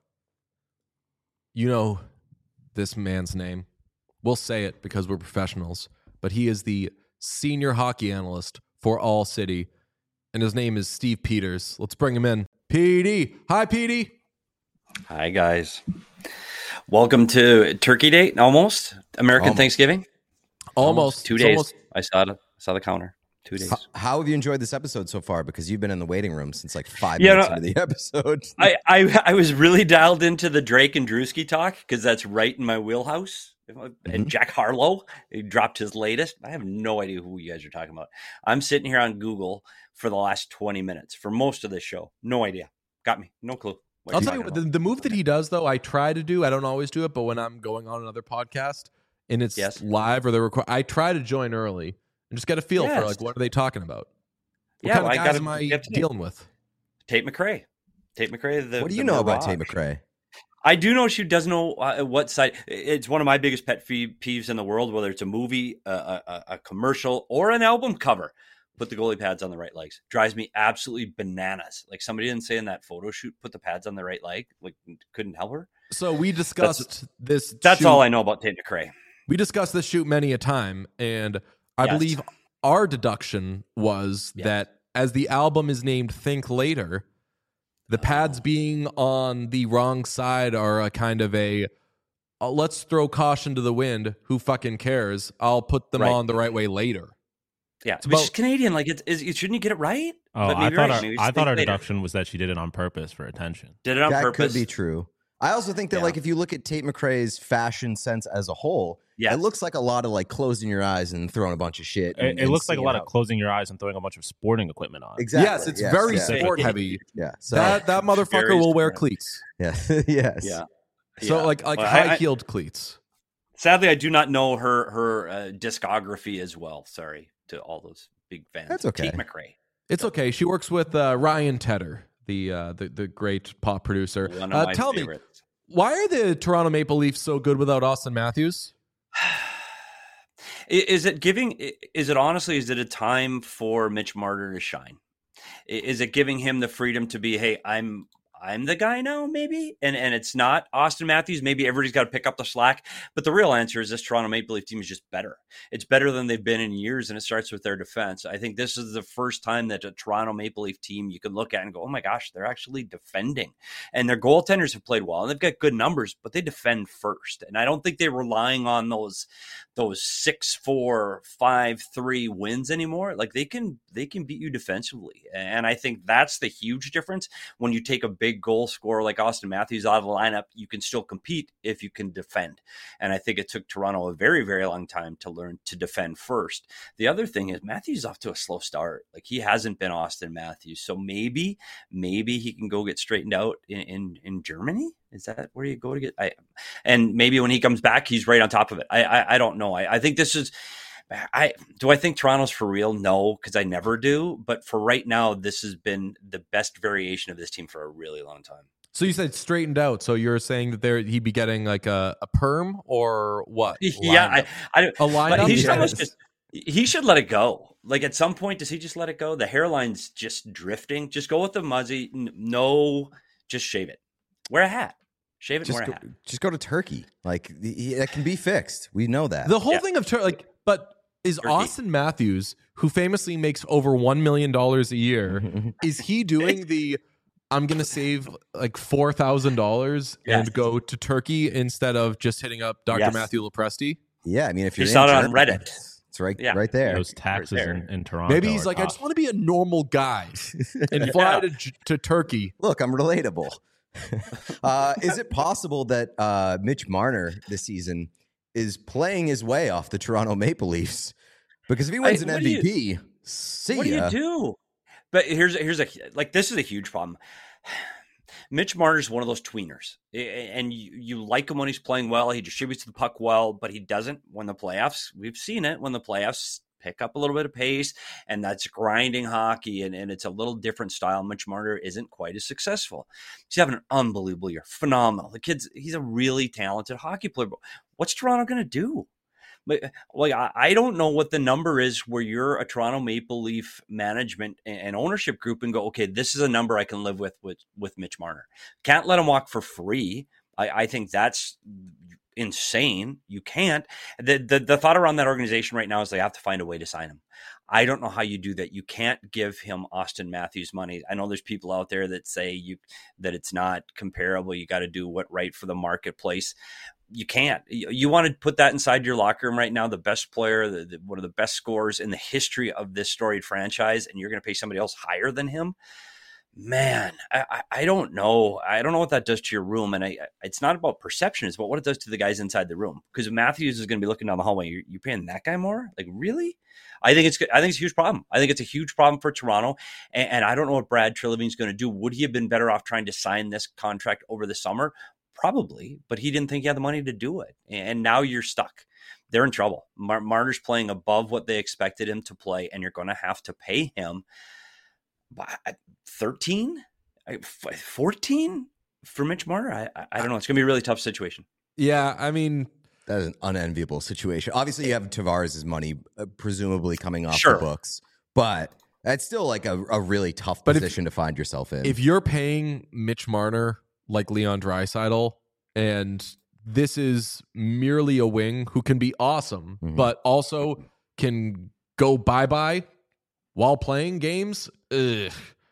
Speaker 1: You know this man's name. We'll say it because we're professionals, but he is the senior hockey analyst for All City, and his name is Steve Peters. Let's bring him in. P D. Hi, P D.
Speaker 4: Hi, guys. Welcome to Turkey Day, almost. American
Speaker 3: Almost.
Speaker 4: Thanksgiving.
Speaker 1: Almost.
Speaker 4: Two
Speaker 1: It's
Speaker 4: days.
Speaker 1: almost-
Speaker 4: I saw the, saw the counter. Two days.
Speaker 3: How, how have you enjoyed this episode so far? Because you've been in the waiting room since like five
Speaker 4: Yeah,
Speaker 3: minutes
Speaker 4: no,
Speaker 3: into the episode.
Speaker 4: I, I I was really dialed into the Drake and Drewski talk because that's right in my wheelhouse. And Jack Harlow, he dropped his latest. I have no idea who you guys are talking about. I'm sitting here on Google for the last twenty minutes for most of this show. No idea. Got me. No clue. what
Speaker 1: I'll
Speaker 4: you're
Speaker 1: tell you
Speaker 4: talking
Speaker 1: what, the,
Speaker 4: about.
Speaker 1: the move that he does, though, I try to do. I don't always do it, but when I'm going on another podcast and it's
Speaker 4: Yes.
Speaker 1: live or they're record, I try to join early and just get a feel for
Speaker 4: Yes.
Speaker 1: like what are they talking about. What
Speaker 4: Yeah,
Speaker 1: kind
Speaker 4: well,
Speaker 1: of
Speaker 4: I
Speaker 1: guys
Speaker 4: gotta
Speaker 1: am I
Speaker 4: get to know.
Speaker 1: dealing with?
Speaker 4: Tate McRae. Tate McRae. The,
Speaker 3: What do
Speaker 4: the
Speaker 3: you know about Tate
Speaker 4: Mirage.
Speaker 3: McRae?
Speaker 4: I do know she does know uh, what side. It's one of my biggest pet fee- peeves in the world, whether it's a movie, a, a, a commercial, or an album cover. Put the goalie pads on the right legs. Drives me absolutely bananas. Like somebody didn't say in that photo shoot, put the pads on the right leg. Like couldn't help her.
Speaker 1: So we discussed this.
Speaker 4: That's
Speaker 1: shoot-
Speaker 4: all I know about Tate McRae.
Speaker 1: We discussed this shoot many a time, and I
Speaker 4: Yes.
Speaker 1: believe our deduction was
Speaker 4: Yes.
Speaker 1: that as the album is named Think Later, the pads being on the wrong side are a kind of a uh, let's throw caution to the wind. Who fucking cares? I'll put them
Speaker 4: Right.
Speaker 1: on the right way later.
Speaker 4: Yeah,
Speaker 1: It's
Speaker 4: which is
Speaker 1: about-
Speaker 4: Canadian. Like, it's, is, shouldn't you get it right?
Speaker 2: Oh,
Speaker 4: But
Speaker 2: I
Speaker 4: maybe
Speaker 2: thought
Speaker 4: right.
Speaker 2: our,
Speaker 4: Maybe
Speaker 2: I
Speaker 4: just
Speaker 2: thought
Speaker 4: think
Speaker 2: our
Speaker 4: later.
Speaker 2: deduction was that she did it on purpose for attention.
Speaker 4: Did it on
Speaker 3: that
Speaker 4: purpose.
Speaker 3: could be true. I also think that
Speaker 4: Yeah.
Speaker 3: like if you look at Tate McRae's fashion sense as a whole,
Speaker 4: Yes.
Speaker 3: it looks like a lot of like closing your eyes and throwing a bunch of shit.
Speaker 2: It,
Speaker 3: and-
Speaker 2: it
Speaker 3: and
Speaker 2: looks like a
Speaker 3: seeing
Speaker 2: lot
Speaker 3: how-
Speaker 2: of closing your eyes and throwing a bunch of sporting equipment on.
Speaker 3: Exactly.
Speaker 1: Yes, it's very
Speaker 3: yeah.
Speaker 1: sport heavy.
Speaker 3: Yeah. So
Speaker 1: that that motherfucker
Speaker 4: Very
Speaker 1: will wear
Speaker 4: sport.
Speaker 1: cleats.
Speaker 3: yeah. yes.
Speaker 4: Yeah.
Speaker 1: So
Speaker 4: Yeah.
Speaker 1: like like
Speaker 4: Well, I- I-
Speaker 1: high heeled cleats.
Speaker 4: Sadly, I do not know her her uh, discography as well. Sorry to all those big fans.
Speaker 3: That's okay.
Speaker 4: Tate McRae,
Speaker 1: It's okay. She works with uh, Ryan Tedder, the uh, the the great pop producer.
Speaker 4: one of
Speaker 1: Uh,
Speaker 4: my
Speaker 1: tell me,
Speaker 4: favorites.
Speaker 1: why are the Toronto Maple Leafs so good without Austin Matthews?
Speaker 4: I- Is it giving? i- Is it honestly? Is it a time for Mitch Marner to shine? I- Is it giving him the freedom to be? Hey, I'm I'm the guy now, maybe, and and it's not Austin Matthews. Maybe everybody's got to pick up the slack. But the real answer is this Toronto Maple Leaf team is just better. It's better than they've been in years, and it starts with their defense. I think this is the first time that a Toronto Maple Leaf team you can look at and go, oh my gosh, they're actually defending, and their goaltenders have played well, and they've got good numbers, but they defend first, and I don't think they're relying on those those six four five three wins anymore. Like they can they can beat you defensively, and I think that's the huge difference. When you take a big goal scorer like Austin Matthews out of the lineup, you can still compete if you can defend, and I think it took Toronto a very very long time to learn to defend first. The other thing is Matthews is off to a slow start. Like he hasn't been Austin Matthews, so maybe maybe he can go get straightened out in in, in Germany. Is that where you go to get? I, and maybe when he comes back, he's right on top of it. I I, I don't know. I, I think this is. I do I think Toronto's for real? No, because I never do. But for right now, this has been the best variation of this team for a really long time.
Speaker 1: So you said straightened out. So you're saying that there he'd be getting like a, a perm or what?
Speaker 4: Yeah, I,
Speaker 1: Lineup?
Speaker 4: I
Speaker 1: a
Speaker 4: but
Speaker 1: lineup.
Speaker 4: he should
Speaker 3: Yes.
Speaker 4: almost just he should let it go. Like at some point, does he just let it go? The hairline's just drifting. Just go with the muzzy. N- No, just shave it. Wear a hat. Shave it. And
Speaker 3: Just
Speaker 4: wear a
Speaker 3: go,
Speaker 4: hat.
Speaker 3: just go to Turkey. Like the, he- that can be fixed. We know that.
Speaker 1: The whole
Speaker 4: Yeah.
Speaker 1: thing of Tur- like, but is
Speaker 4: Turkey.
Speaker 1: Austin Matthews, who famously makes over one million dollars a year, is he doing the? I'm gonna save like four thousand dollars
Speaker 4: Yes.
Speaker 1: and go to Turkey instead of just hitting up Doctor
Speaker 4: Yes.
Speaker 1: Matthew Lepresti.
Speaker 3: yeah, I mean, if
Speaker 4: He
Speaker 3: you're
Speaker 4: saw
Speaker 3: in
Speaker 4: it on
Speaker 3: Germany,
Speaker 4: Reddit.
Speaker 3: It's it's right,
Speaker 4: Yeah.
Speaker 3: right there.
Speaker 2: Those taxes
Speaker 4: there.
Speaker 2: in, in Toronto.
Speaker 1: Maybe he's
Speaker 2: are
Speaker 1: like, I
Speaker 2: tough.
Speaker 1: just want to be a normal guy and fly to, J- to Turkey.
Speaker 3: Look, I'm relatable. uh, is it possible that uh, Mitch Marner this season is playing his way off the Toronto Maple Leafs? Because if he wins
Speaker 4: I-
Speaker 3: an
Speaker 4: what do you-
Speaker 3: M V P, see
Speaker 4: What do
Speaker 3: ya.
Speaker 4: you do? But here's here's a like this is a huge problem. Mitch Marner's one of those tweeners, A- and you, you like him when he's playing well. He distributes the puck well, but he doesn't when the playoffs. We've seen it when the playoffs pick up a little bit of pace, and that's grinding hockey, and, and it's a little different style. Mitch Marner isn't quite as successful. He's having an unbelievable year, phenomenal. The kid's he's a really talented hockey player. But what's Toronto going to do? But like I, I don't know what the number is where you're a Toronto Maple Leaf management and, and ownership group and go, okay, this is a number I can live with with with Mitch Marner. Can't let him walk for free. I, I think that's insane. You can't. The, the the thought around that organization right now is they have to find a way to sign him. I don't know how you do that. You can't give him Austin Matthews money. I know there's people out there that say you that it's not comparable. You got to do what right for the marketplace. You can't. You, you want to put that inside your locker room right now, the best player, the, the, one of the best scorers in the history of this storied franchise, and you're going to pay somebody else higher than him? Man, I, I, I don't know. I don't know what that does to your room. And I, it's not about perception. It's about what it does to the guys inside the room. Because Matthews is going to be looking down the hallway. You're, you're paying that guy more? Like, really? I think it's I think it's a huge problem. I think it's a huge problem for Toronto. And, and I don't know what Brad Treliving's going to do. Would he have been better off trying to sign this contract over the summer? Probably, but he didn't think he had the money to do it. And now you're stuck. They're in trouble. Mar- Marner's playing above what they expected him to play, and you're going to have to pay him thirteen, fourteen for Mitch Marner. I, I, I don't know. It's going to be a really tough situation.
Speaker 1: Yeah, I mean,
Speaker 3: That is an unenviable situation. Obviously, you have Tavares' money uh, presumably coming off
Speaker 4: Sure.
Speaker 3: the books, but that's still like a, a really tough
Speaker 1: But if-
Speaker 3: position to find yourself in.
Speaker 1: if you're paying Mitch Marner like Leon Draisaitl, and this is merely a wing who can be awesome,
Speaker 3: Mhm.
Speaker 1: but also can go bye-bye while playing games, ugh,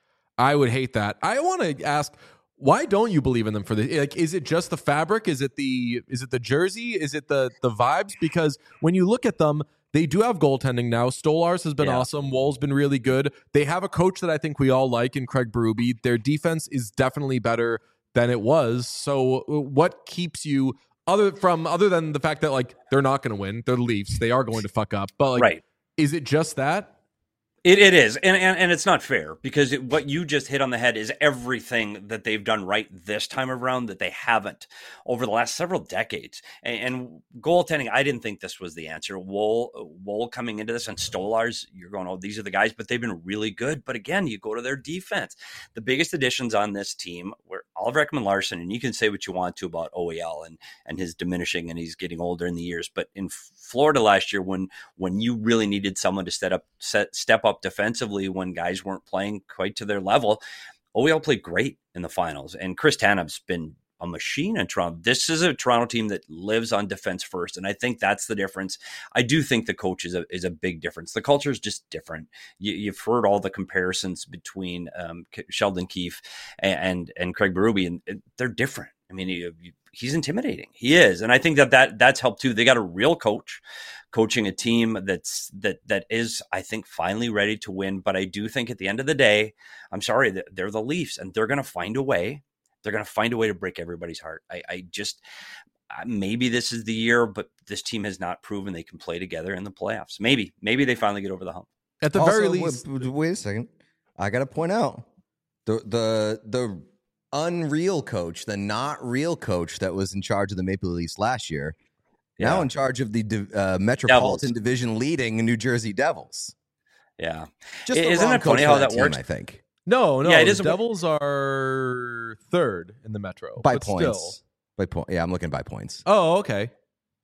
Speaker 1: I would hate that. I want to ask, why don't you believe in them for this? Like, is it just the fabric? Is it the is it the jersey? Is it the the vibes? Because when you look at them, they do have goaltending now. Stolarz has been
Speaker 4: Yeah.
Speaker 1: awesome. Woll's been really good. They have a coach that I think we all like in Craig Berube. Their defense is definitely better than it was. So what keeps you other from other than the fact that like they're not going to win? They're the Leafs. They are going to fuck up. But like,
Speaker 4: Right.
Speaker 1: is it just that?
Speaker 4: It it is, and and, and it's not fair because it, what you just hit on the head is everything that they've done right this time around that they haven't over the last several decades. And, and goaltending, I didn't think this was the answer. Woll Woll coming into this and Stolarz, you're going, oh, these are the guys, but they've been really good. But again, you go to their defense. The biggest additions on this team were Oliver Ekman-Larsson, and you can say what you want to about O E L and and his diminishing and he's getting older in the years. But in Florida last year, when when you really needed someone to step up set, step up defensively when guys weren't playing quite to their level, O E L played great in the finals. And Chris Tanev's been a machine in Toronto. This is a Toronto team that lives on defense first, and I think that's the difference. I do think the coach is a is a big difference. The culture is just different. You, you've heard all the comparisons between um, Sheldon Keefe and and Craig Berube, and they're different. I mean, you, you, he's intimidating. He is, and I think that, that that's helped too. They got a real coach coaching a team that's that that is, I think, finally ready to win. But I do think at the end of the day, I'm sorry, they're the Leafs, and they're going to find a way. They're going to find a way to break everybody's heart. I, I just maybe this is the year, but this team has not proven they can play together in the playoffs. Maybe, maybe they finally get over the hump.
Speaker 1: At the
Speaker 3: Also,
Speaker 1: very least,
Speaker 3: wait, wait a second. I got to point out the the the unreal coach, the not real coach that was in charge of the Maple Leafs last year, now
Speaker 4: Yeah.
Speaker 3: in charge of the uh, Metropolitan
Speaker 4: Devils.
Speaker 3: Division leading New Jersey Devils.
Speaker 4: Yeah.
Speaker 3: Just the
Speaker 4: Isn't
Speaker 3: wrong
Speaker 4: it funny
Speaker 3: coach
Speaker 4: how
Speaker 3: for
Speaker 4: that
Speaker 3: team,
Speaker 4: works?
Speaker 3: I think
Speaker 1: no, no.
Speaker 4: Yeah, it
Speaker 1: the
Speaker 4: is a-
Speaker 1: Devils are third in the Metro
Speaker 3: by
Speaker 1: but
Speaker 3: points.
Speaker 1: Still.
Speaker 3: By point, yeah, I'm looking by points.
Speaker 1: Oh, okay.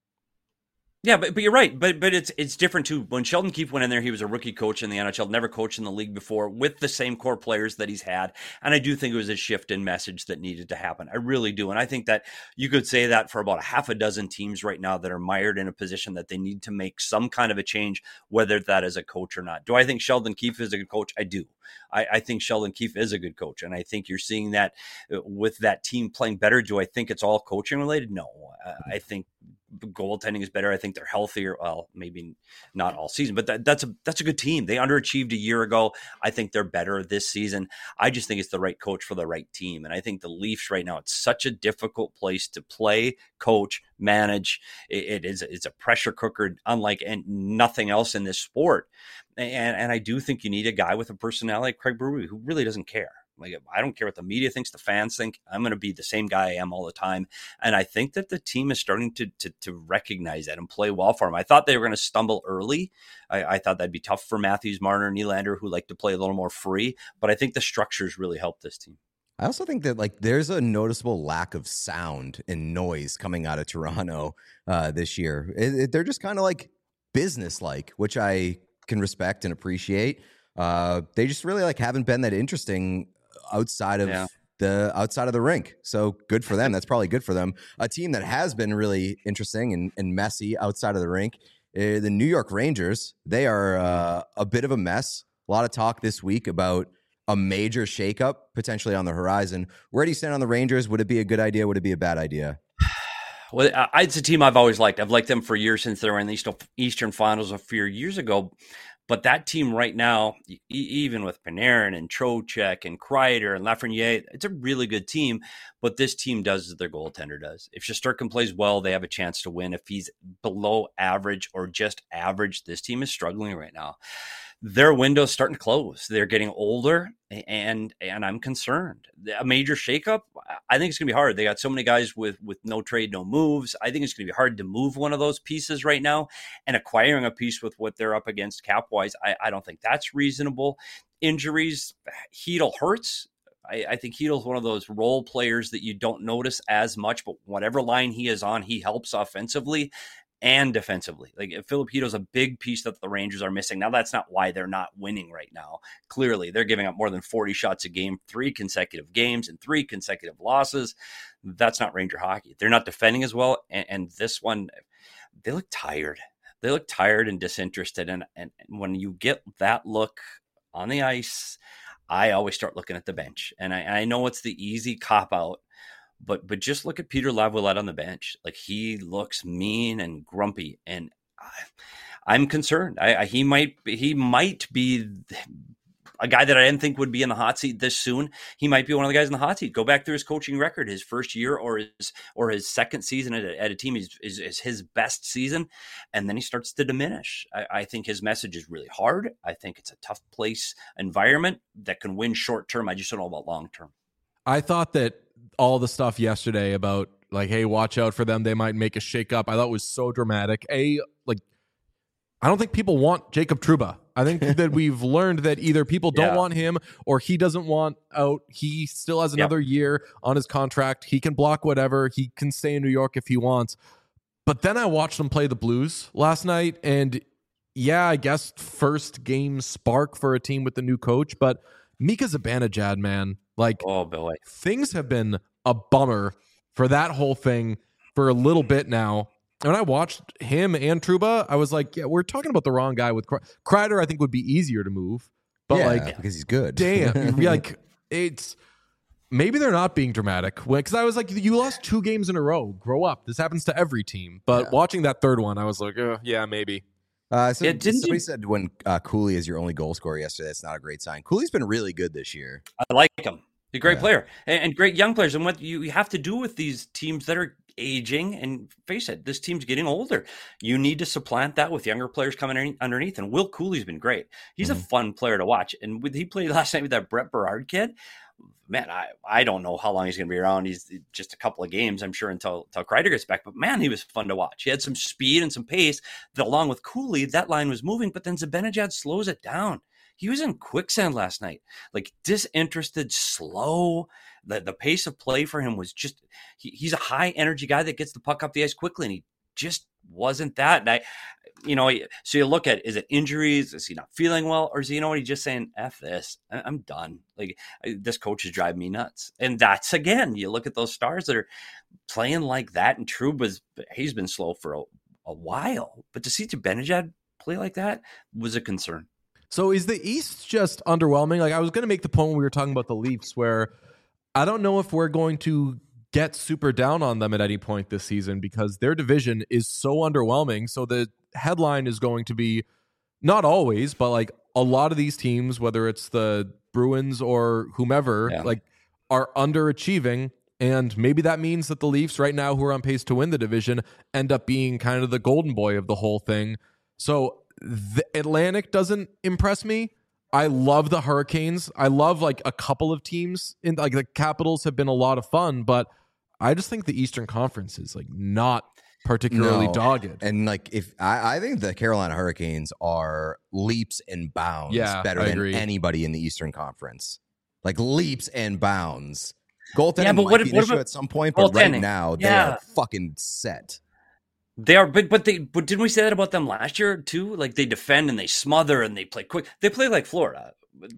Speaker 4: Yeah, but, but you're right. But but it's it's different too. When Sheldon Keefe went in there, he was a rookie coach in the N H L, never coached in the league before, with the same core players that he's had. And I do think it was a shift in message that needed to happen. I really do. And I think that you could say that for about a half a dozen teams right now that are mired in a position that they need to make some kind of a change, whether that is a coach or not. Do I think Sheldon Keefe is a good coach? I do. I, I think Sheldon Keefe is a good coach. And I think you're seeing that with that team playing better. Do I think it's all coaching related? No. I, I think goaltending is better. I think they're healthier. Well, maybe not all season, but that, that's a that's a good team. They underachieved a year ago. I think they're better this season. I just think it's the right coach for the right team. And I think the Leafs right now, it's such a difficult place to play, coach, manage. It, it is it's a pressure cooker, unlike and nothing else in this sport. And and I do think you need a guy with a personality like Craig Berube who really doesn't care. Like, I don't care what the media thinks, the fans think. I'm going to be the same guy I am all the time. And I think that the team is starting to to, to recognize that and play well for him. I thought they were going to stumble early. I, I thought that'd be tough for Matthews, Marner, Nylander, who like to play a little more free. But I think the structures really helped this team.
Speaker 3: I also think that like there's a noticeable lack of sound and noise coming out of Toronto uh, this year. It, it, they're just kind of like business-like, which I can respect and appreciate. Uh, they just really like haven't been that interesting outside of
Speaker 4: Yeah.
Speaker 3: the outside of the rink. So good for them. That's probably good for them. A team that has been really interesting and, and messy outside of the rink, uh, the New York Rangers. They are uh, a bit of a mess. A lot of talk this week about a major shakeup potentially on the horizon. Where do you stand on the Rangers? Would it be a good idea? Would it be a bad idea?
Speaker 4: Well, I- it's a team I've always liked. I've liked them for years since they were in the East- Eastern Finals a few years ago. But that team right now, e- even with Panarin and Trocheck and Kreider and Lafreniere, it's a really good team. But this team does as their goaltender does. If Shesterkin plays well, they have a chance to win. If he's below average or just average, this team is struggling right now. Their window's starting to close. They're getting older, and and I'm concerned. A major shakeup, I think it's going to be hard. They got so many guys with, with no trade, no moves. I think it's going to be hard to move one of those pieces right now. And acquiring a piece with what they're up against cap-wise, I, I don't think that's reasonable. Injuries, Hedl hurts. I, I think Heedle's one of those role players that you don't notice as much, but whatever line he is on, he helps offensively and defensively. Like, Filip Chytil's a big piece that the Rangers are missing. Now, that's not why they're not winning right now. Clearly, they're giving up more than forty shots a game, three consecutive games and three consecutive losses. That's not Ranger hockey. They're not defending as well. And, and this one, they look tired. they look tired and disinterested. And, and when you get that look on the ice, I always start looking at the bench. And I, I know it's the easy cop out, but but just look at Peter Laviolette on the bench. Like, he looks mean and grumpy, and I, I'm concerned. I, I he might he might be a guy that I didn't think would be in the hot seat this soon. He might be one of the guys in the hot seat. Go back through his coaching record. His first year or his or his second season at a, at a team is, is, is his best season, and then he starts to diminish. I, I think his message is really hard. I think it's a tough place environment that can win short term. I just don't know about long term.
Speaker 1: I thought that all the stuff yesterday about, like, hey, watch out for them, they might make a shakeup, I thought was so dramatic. A, like, I don't think people want Jacob Trouba. I think that we've learned that either people don't
Speaker 4: Yeah.
Speaker 1: want him or he doesn't want out. He still has another yep. year on his contract. He can block whatever. He can stay in New York if he wants. But then I watched them play the Blues last night, and yeah, I guess first game spark for a team with the new coach, but Mika Zibanejad, man, like,
Speaker 4: oh boy,
Speaker 1: things have been a bummer for that whole thing for a little bit now. When I watched him and Trouba, I was like, yeah, we're talking about the wrong guy. With Kreider, Kreider I think would be easier to move, but
Speaker 3: yeah,
Speaker 1: like,
Speaker 3: because he's good.
Speaker 1: Damn, like, it's maybe they're not being dramatic, because I was like, you lost two games in a row. Grow up. This happens to every team. But
Speaker 3: yeah.
Speaker 1: watching that third one, I was like, uh, yeah, maybe.
Speaker 3: Uh, so
Speaker 4: yeah, didn't
Speaker 3: somebody
Speaker 4: you...
Speaker 3: said when uh, Cooley is your only goal scorer yesterday, that's not a great sign. Cooley's been really good this year.
Speaker 4: I like him. He's a great
Speaker 3: yeah.
Speaker 4: player and, and great young players. And what you have to do with these teams that are aging, and face it, this team's getting older. You need to supplant that with younger players coming underneath. And Will Cooley's been great. He's mm-hmm. a fun player to watch. And with, he played last night with that Brett Berard kid. Man, I, I don't know how long he's going to be around. He's just a couple of games, I'm sure, until, until Kreider gets back. But man, he was fun to watch. He had some speed and some pace that, along with Cooley, that line was moving. But then Zibanejad slows it down. He was in quicksand last night, like disinterested, slow. The the pace of play for him was just, he, he's a high energy guy that gets the puck up the ice quickly, and he just wasn't that. And I, you know, so you look at, is it injuries? Is he not feeling well? Or is he, you know what, he's just saying, F this, I'm done. Like, this coach is driving me nuts. And that's, again, you look at those stars that are playing like that, and Trouba's, he's been slow for a, a while. But to see Zibanejad play like that was a concern.
Speaker 1: So is the East just underwhelming? Like, I was going to make the point when we were talking about the Leafs, where I don't know if we're going to get super down on them at any point this season, because their division is so underwhelming. So the headline is going to be, not always, but like a lot of these teams, whether it's the Bruins or whomever, yeah. like are underachieving. And maybe that means that the Leafs right now, who are on pace to win the division, end up being kind of the golden boy of the whole thing. So the Atlantic doesn't impress me. I love the Hurricanes. I love like a couple of teams in, like, the Capitals have been a lot of fun, but I just think the Eastern Conference is like not particularly
Speaker 3: no.
Speaker 1: dogged.
Speaker 3: And like, if I, I think the Carolina Hurricanes are leaps and bounds
Speaker 1: yeah,
Speaker 3: better
Speaker 1: I
Speaker 3: than
Speaker 1: agree.
Speaker 3: anybody in the Eastern Conference. Like, leaps and bounds. Goaltending
Speaker 4: yeah, but
Speaker 3: might
Speaker 4: what,
Speaker 3: be an
Speaker 4: what
Speaker 3: issue
Speaker 4: about
Speaker 3: at some point, but right now they
Speaker 4: yeah.
Speaker 3: are fucking set.
Speaker 4: They are, but but they but didn't we say that about them last year too? Like, they defend and they smother and they play quick. They play like Florida.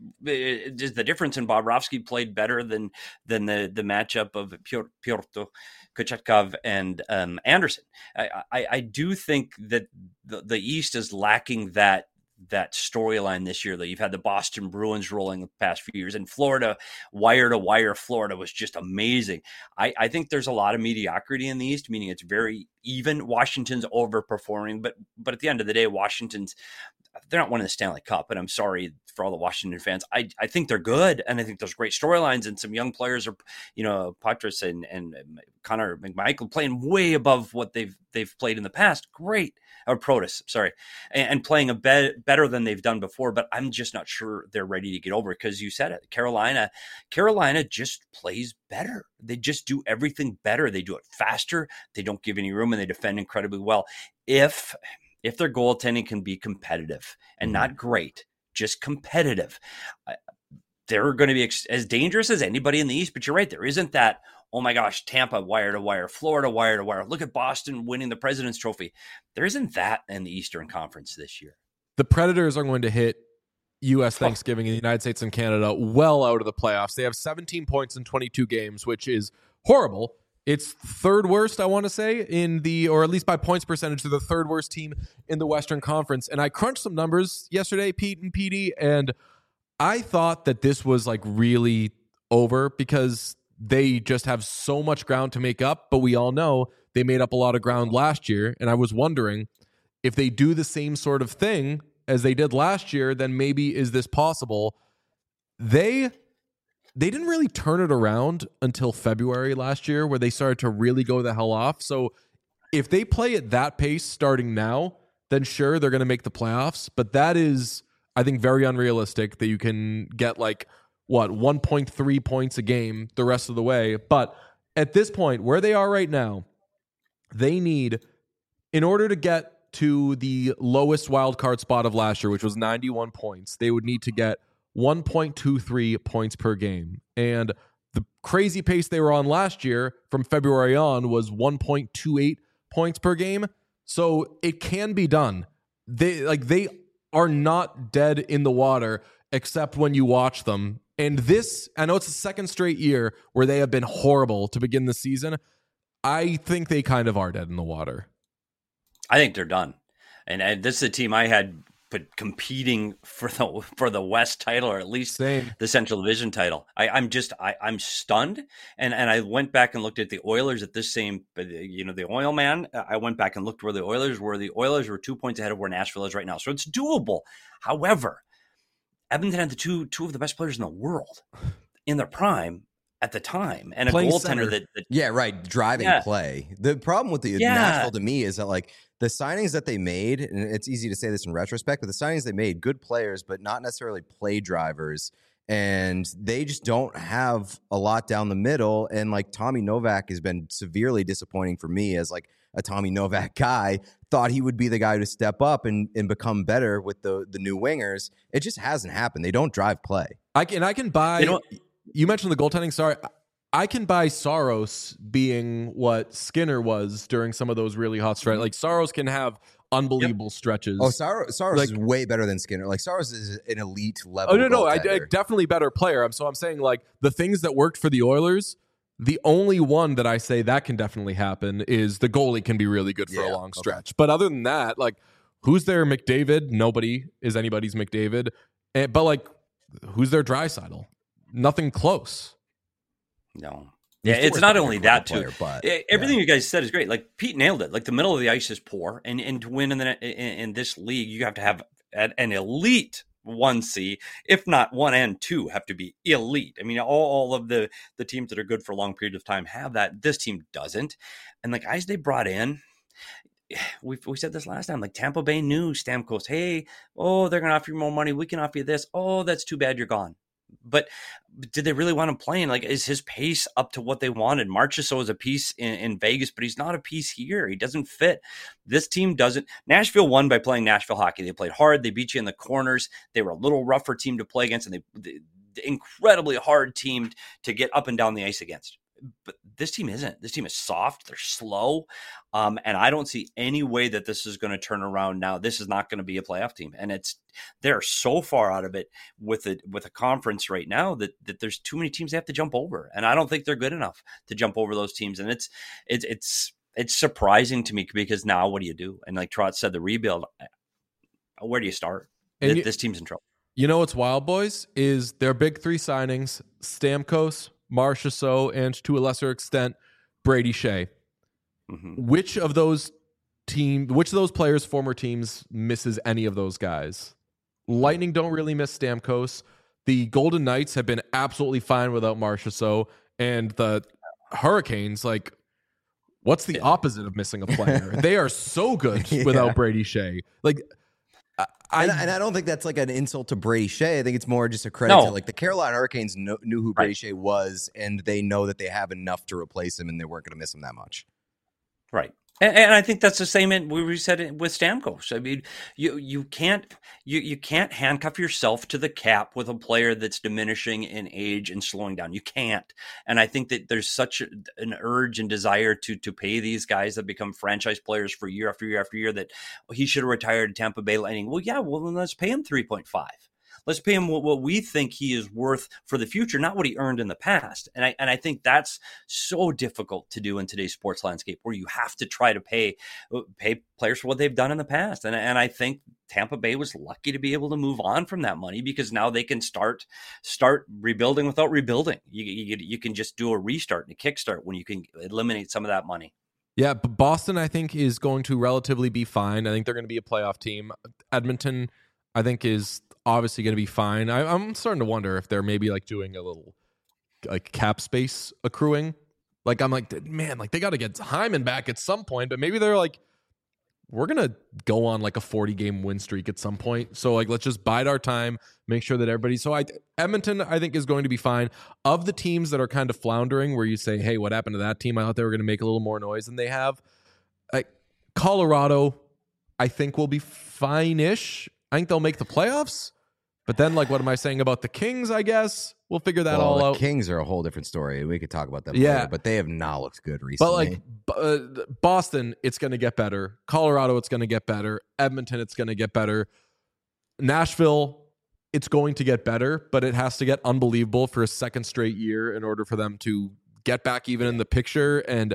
Speaker 4: Just the difference in Bobrovsky played better than than the the matchup of Piotr Kochetkov and um, Anderson. I, I I do think that the, the East is lacking that that storyline this year. That you've had the Boston Bruins rolling the past few years, and Florida, wire to wire, Florida was just amazing. I, I think there's a lot of mediocrity in the East, meaning it's very even. Washington's overperforming, but but at the end of the day, Washington's, they're not winning the Stanley Cup, and I'm sorry for all the Washington fans. I, I think they're good, and I think there's great storylines, and some young players are, you know, Patras and, and Connor McMichael playing way above what they've they've played in the past. Great. Or Protas, sorry, and, and playing a be- better than they've done before, but I'm just not sure they're ready to get over it, because you said it. Carolina, Carolina just plays better. They just do everything better. They do it faster. They don't give any room, and they defend incredibly well. If if their goaltending can be competitive and not great, just competitive, uh, they're going to be ex- as dangerous as anybody in the East. But you're right, there isn't that, oh my gosh, Tampa wire to wire, Florida wire to wire. Look at Boston winning the President's Trophy. There isn't that in the Eastern Conference this year.
Speaker 1: The Predators are going to hit U S Thanksgiving in the United States and Canada well out of the playoffs. They have seventeen points in twenty-two games, which is horrible It's third worst, I want to say, in the, or at least by points percentage, they're the third worst team in the Western Conference. And I crunched some numbers yesterday, Pete and P D, and I thought that this was like really over because they just have so much ground to make up. But we all know they made up a lot of ground last year. And I was wondering if they do the same sort of thing as they did last year, then maybe is this possible? They they didn't really turn it around until February last year, where they started to really go the hell off. So if they play at that pace starting now, then sure, they're going to make the playoffs. But that is, I think, very unrealistic that you can get like, what, one point three points a game the rest of the way. But at this point, where they are right now, they need, in order to get to the lowest wild card spot of last year, which was ninety-one points, they would need to get one point two three points per game. And the crazy pace they were on last year from February on was one point two eight points per game. So it can be done. They like they are not dead in the water except when you watch them. And this, I know it's the second straight year where they have been horrible to begin the season. I think they kind of are dead in the water.
Speaker 4: I think they're done. And, and this is a team I had put competing for the for the West title, or at least
Speaker 1: Same.
Speaker 4: the Central Division title. I, I'm just I, I'm stunned. And and I went back and looked at the Oilers at this same, you know, the Oil Man. I went back and looked where the Oilers were. The Oilers were two points ahead of where Nashville is right now. So it's doable. However, Edmonton had the two two of the best players in the world in their prime at the time, and a
Speaker 1: Playing
Speaker 4: goaltender
Speaker 1: center.
Speaker 4: that, that
Speaker 3: Yeah, right. Driving
Speaker 4: Yeah.
Speaker 3: play. The problem with the
Speaker 4: Yeah.
Speaker 3: Nashville to me is that like the signings that they made, and it's easy to say this in retrospect, but the signings they made, good players, but not necessarily play drivers. And they just don't have a lot down the middle. And like Tommy Novak has been severely disappointing for me as like a Tommy Novak guy. Thought he would be the guy to step up and, and become better with the the new wingers. It just hasn't happened. They don't drive play.
Speaker 1: I can, and I can buy.
Speaker 4: They don't-
Speaker 1: You mentioned the goaltending. Sorry, I can buy Saros being what Skinner was during some of those really hot stretches. Like Saros can have unbelievable stretches.
Speaker 3: Oh, Saros, Saros
Speaker 1: Like-
Speaker 3: is way better than Skinner. Like Saros is an elite level.
Speaker 1: Oh no, no, I, I
Speaker 3: goaltender.
Speaker 1: definitely better player. I'm so I'm saying like the things that worked for the Oilers. The only one that I say that can definitely happen is the goalie can be really good for
Speaker 3: Yeah,
Speaker 1: a long
Speaker 3: okay.
Speaker 1: stretch. But other than that, like who's their McDavid? Nobody is anybody's McDavid. And, but like who's their Draisaitl? Nothing close.
Speaker 4: no.
Speaker 3: He's
Speaker 4: Yeah, it's
Speaker 3: forced
Speaker 4: not
Speaker 3: to be a
Speaker 4: only
Speaker 3: great
Speaker 4: that too.
Speaker 3: player, but,
Speaker 4: Eh, Everything
Speaker 3: yeah.
Speaker 4: you guys said is great. Like Pete nailed it. Like the middle of the ice is poor, and and to win in the in, in this league, you have to have an, an elite one C, if not one and two, have to be elite. I mean, all, all of the the teams that are good for a long period of time have that. This team doesn't, and the guys they brought in. We we said this last time. Like Tampa Bay knew Stamkos. Hey, oh, they're going to offer you more money. We can offer you this. Oh, that's too bad. You're gone. But did they really want him playing? Like, is his pace up to what they wanted? Marchessault is a piece in, in Vegas, but he's not a piece here. He doesn't fit. This team doesn't. Nashville won by playing Nashville hockey. They played hard. They beat you in the corners. They were a little rougher team to play against, and they, they, they incredibly hard team to get up and down the ice against. But this team isn't. This team is soft. They're slow. Um, and I don't see any way that this is going to turn around now. This is not going to be a playoff team. And it's they're so far out of it with a, with a conference right now that, that there's too many teams they have to jump over. And I don't think they're good enough to jump over those teams. And it's it's it's it's surprising to me because now what do you do? And like Trot said, the rebuild, where do you start?
Speaker 1: And
Speaker 4: This,
Speaker 1: you-
Speaker 4: this team's in trouble.
Speaker 1: You know what's wild, boys, is their big three signings, Stamkos, Marchessault, and to a lesser extent, Brady Shea.
Speaker 4: hmm
Speaker 1: Which of those team, which of those players' former teams misses any of those guys? Lightning don't really miss Stamkos. The Golden Knights have been absolutely fine without Marchessault, and the Hurricanes, like, what's the opposite of missing a player? They are so good
Speaker 3: Yeah.
Speaker 1: without Brady Shea. Like, I, I,
Speaker 3: and, and I don't think that's like an insult to Brady Shea. I think it's more just a credit
Speaker 4: No.
Speaker 3: to like the Carolina Hurricanes kno- knew who Brady
Speaker 4: Right.
Speaker 3: Shea was, and they know that they have enough to replace him, and they weren't going to miss him that much.
Speaker 4: Right. And, and I think that's the same in we said it with Stamkos. I mean, you you can't you you can't handcuff yourself to the cap with a player that's diminishing in age and slowing down. You can't. And I think that there's such a, an urge and desire to to pay these guys that become franchise players for year after year after year that he should have retired at Tampa Bay Lightning. Well, yeah, well then let's pay him three point five. Let's pay him what, what we think he is worth for the future, not what he earned in the past. And I and I think that's so difficult to do in today's sports landscape, where you have to try to pay pay players for what they've done in the past. And and I think Tampa Bay was lucky to be able to move on from that money, because now they can start start rebuilding without rebuilding. You you, you can just do a restart and a kickstart when you can eliminate some of that money.
Speaker 1: Yeah, but Boston, I think, is going to relatively be fine. I think they're going to be a playoff team. Edmonton, I think, is obviously going to be fine. I, I'm starting to wonder if they're maybe like doing a little like cap space accruing. Like I'm like, man, like they got to get Hyman back at some point, but maybe they're like, we're going to go on like a forty game win streak at some point. So like, let's just bide our time, make sure that everybody. So I, Edmonton, I think, is going to be fine. Of the teams that are kind of floundering, where you say, hey, what happened to that team? I thought they were going to make a little more noise than they have. Like Colorado, I think will be fine-ish. I think they'll make the playoffs. But then, like, what am I saying about the Kings, I guess? We'll figure that
Speaker 3: well,
Speaker 1: all
Speaker 3: the
Speaker 1: out.
Speaker 3: Kings are a whole different story. We could talk about them
Speaker 1: Yeah.
Speaker 3: later, but they have not looked good recently.
Speaker 1: But, like, uh, Boston, it's going to get better. Colorado, it's going to get better. Edmonton, it's going to get better. Nashville, it's going to get better, but it has to get unbelievable for a second straight year in order for them to get back even in the picture. And,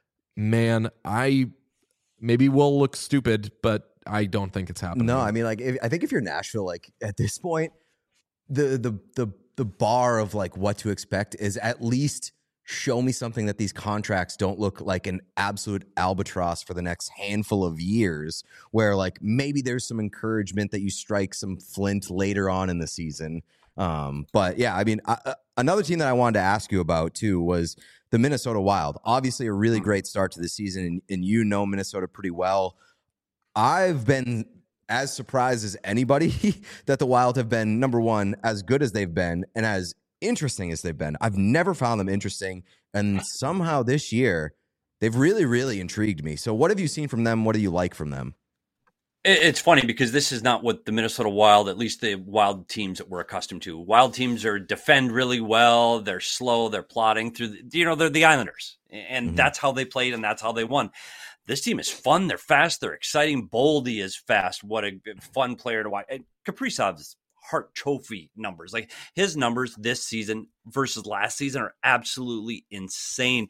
Speaker 1: man, I maybe will look stupid, but I don't think it's happening.
Speaker 3: No, I mean, like, if, I think if you're Nashville, like, at this point, the the the the bar of like what to expect is at least show me something that these contracts don't look like an absolute albatross for the next handful of years, where like maybe there's some encouragement that you strike some flint later on in the season. Um, but yeah, I mean, I, another team that I wanted to ask you about too was the Minnesota Wild. Obviously, a really great start to the season, and, and you know Minnesota pretty well. I've been as surprised as anybody that the Wild have been, number one, as good as they've been and as interesting as they've been. I've never found them interesting. And somehow this year, they've really, really intrigued me. So what have you seen from them? What do you like from them?
Speaker 4: It's funny because this is not what the Minnesota Wild, at least the Wild teams that we're accustomed to. Wild teams are defend really well. They're slow. They're plodding through, the, you know, they're the Islanders. And mm-hmm. that's how they played and that's how they won. This team is fun. They're fast. They're exciting. Boldy is fast. What a fun player to watch. And Kaprizov's Hart Trophy numbers, like his numbers this season versus last season, are absolutely insane.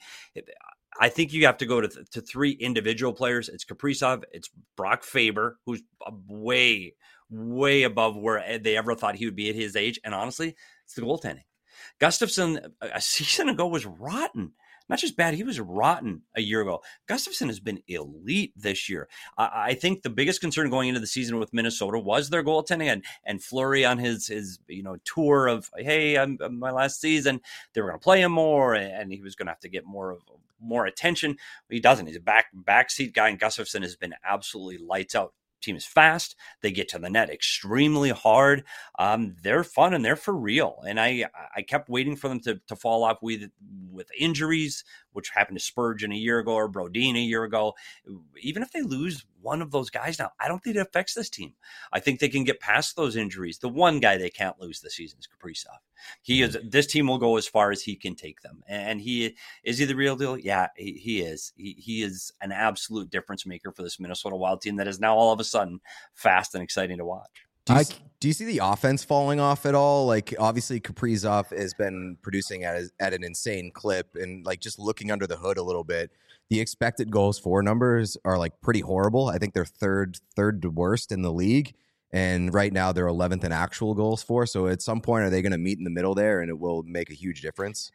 Speaker 4: I think you have to go to, th- to three individual players. It's Kaprizov. It's Brock Faber, who's way, way above where they ever thought he would be at his age. And honestly, it's the goaltending. Gustafsson a season ago was rotten. Not just bad, he was rotten a year ago. Gustafsson has been elite this year. I, I think the biggest concern going into the season with Minnesota was their goaltending, and and Fleury on his his you know tour of, hey, I'm, I'm my last season. They were going to play him more, and he was going to have to get more of more attention. He doesn't. He's a back backseat guy, and Gustafsson has been absolutely lights out. Team is fast. They get to the net extremely hard. Um, they're fun and they're for real. And I I kept waiting for them to, to fall off with with injuries, which happened to Spurgeon a year ago or Brodin a year ago. Even if they lose one of those guys now, I don't think it affects this team. I think they can get past those injuries. The one guy they can't lose this season is Kaprizov. He is. This team will go as far as he can take them. And he is he the real deal? Yeah, he, he is. He, he is an absolute difference maker for this Minnesota Wild team that is now all of a sudden fast and exciting to watch.
Speaker 3: Do you, I, do you see the offense falling off at all? Like, obviously, Kaprizov has been producing at, a, at an insane clip, and like just looking under the hood a little bit, the expected goals for numbers are like pretty horrible. I think they're third, third worst in the league. And right now they're eleventh in actual goals for. So at some point, are they going to meet in the middle there, and it will make a huge difference?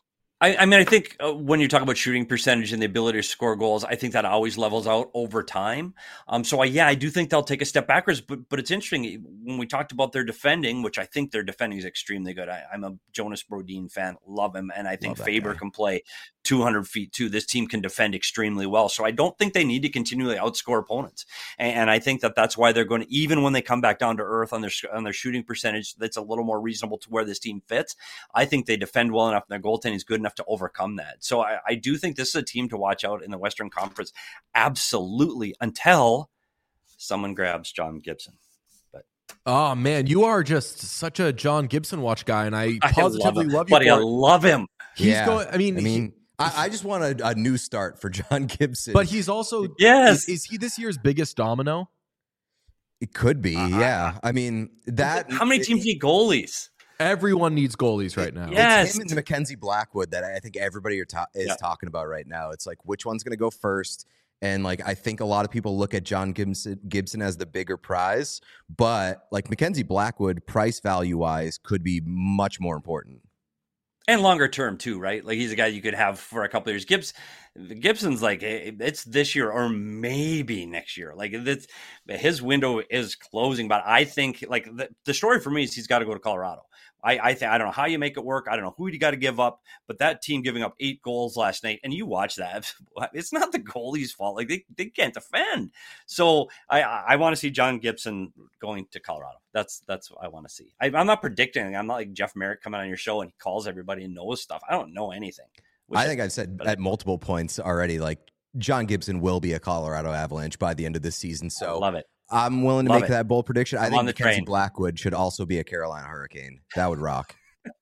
Speaker 4: I, I mean, I think uh, when you talk about shooting percentage and the ability to score goals, I think that always levels out over time. Um, so, I, yeah, I do think they'll take a step backwards. But but it's interesting when we talked about their defending, which I think their defending is extremely good. I, I'm a Jonas Brodin fan, love him, and I think Faber guy. can play two hundred feet too. This team can defend extremely well. So I don't think they need to continually outscore opponents. And, and I think that that's why they're going to, even when they come back down to earth on their on their shooting percentage, that's a little more reasonable to where this team fits. I think they defend well enough, and their goaltending is good enough to overcome that. So I, I do think this is a team to watch out in the Western Conference. Absolutely, until someone grabs John Gibson. But
Speaker 1: oh man, you are just such a John Gibson watch guy, and I positively
Speaker 4: I love,
Speaker 1: love you.
Speaker 4: Buddy,
Speaker 1: for
Speaker 4: I love him.
Speaker 1: He's
Speaker 3: yeah.
Speaker 1: going. I mean,
Speaker 3: I mean.
Speaker 1: He,
Speaker 3: I, I just want a, a new start for John Gibson.
Speaker 1: But he's also
Speaker 4: yes.
Speaker 1: Is, is he this year's biggest domino?
Speaker 3: It could be,
Speaker 4: Uh,
Speaker 3: yeah. I mean, that.
Speaker 4: How many teams need goalies?
Speaker 1: Everyone needs goalies right now.
Speaker 4: Yeah.
Speaker 3: It's him and Mackenzie Blackwood that I think everybody are ta- is
Speaker 4: Yeah.
Speaker 3: talking about right now. It's like, which one's going to go first? And like, I think a lot of people look at John Gibson, Gibson as the bigger prize, but like Mackenzie Blackwood, price value wise, could be much more important.
Speaker 4: And longer term too, right? Like he's a guy you could have for a couple of years. Gibbs, Gibson's like it's this year or maybe next year. Like it's, his window is closing, but I think like the, the story for me is he's got to go to Colorado. I I, th- I don't know how you make it work. I don't know who you got to give up, but that team giving up eight goals last night, and you watch that, it's not the goalie's fault. Like they, they can't defend. So I I want to see John Gibson going to Colorado. That's that's what I want to see. I, I'm not predicting. I'm not like Jeff Merrick coming on your show and he calls everybody and knows stuff. I don't know anything.
Speaker 3: I think I've said at multiple points already, like John Gibson will be a Colorado Avalanche by the end of this season. So
Speaker 4: I love it.
Speaker 3: I'm willing to
Speaker 4: Love
Speaker 3: make
Speaker 4: it.
Speaker 3: that bold prediction. I
Speaker 4: I'm
Speaker 3: think
Speaker 4: on the
Speaker 3: Mackenzie
Speaker 4: train.
Speaker 3: Blackwood should also be a Carolina Hurricane. That would rock.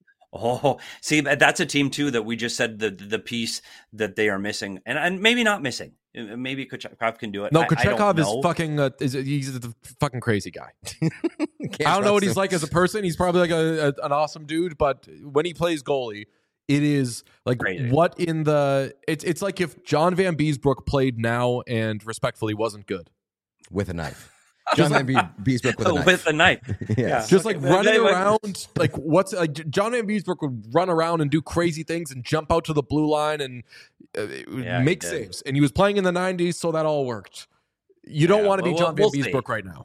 Speaker 4: Oh, see, that's a team too that we just said the the piece that they are missing, and and maybe not missing. Maybe Kochetkov can do it.
Speaker 1: No,
Speaker 4: I- I don't
Speaker 1: Kochetkov is
Speaker 4: know.
Speaker 1: fucking. Uh, is he's a fucking crazy guy.
Speaker 3: Can't
Speaker 1: I don't know what
Speaker 3: trust
Speaker 1: he's
Speaker 3: him.
Speaker 1: like as a person. He's probably like a, a an awesome dude, but when he plays goalie, it is like
Speaker 4: Crazy.
Speaker 1: what in the. It's it's like if John Van Beesbrook played now and respectfully wasn't good.
Speaker 3: with a knife. John Van Be- Beesbrook with a knife.
Speaker 4: with a knife.
Speaker 3: Yes.
Speaker 1: Just like
Speaker 4: Okay.
Speaker 1: running
Speaker 4: They went-
Speaker 1: around, like what's like John Van Beesbrook would run around and do crazy things and jump out to the blue line and uh,
Speaker 4: Yeah, he
Speaker 1: make
Speaker 4: did.
Speaker 1: saves. And he was playing in the nineties, so that all worked. You don't
Speaker 4: Yeah,
Speaker 1: want to be
Speaker 4: well,
Speaker 1: John
Speaker 4: we'll
Speaker 1: Van
Speaker 4: see.
Speaker 1: Beesbrook right now.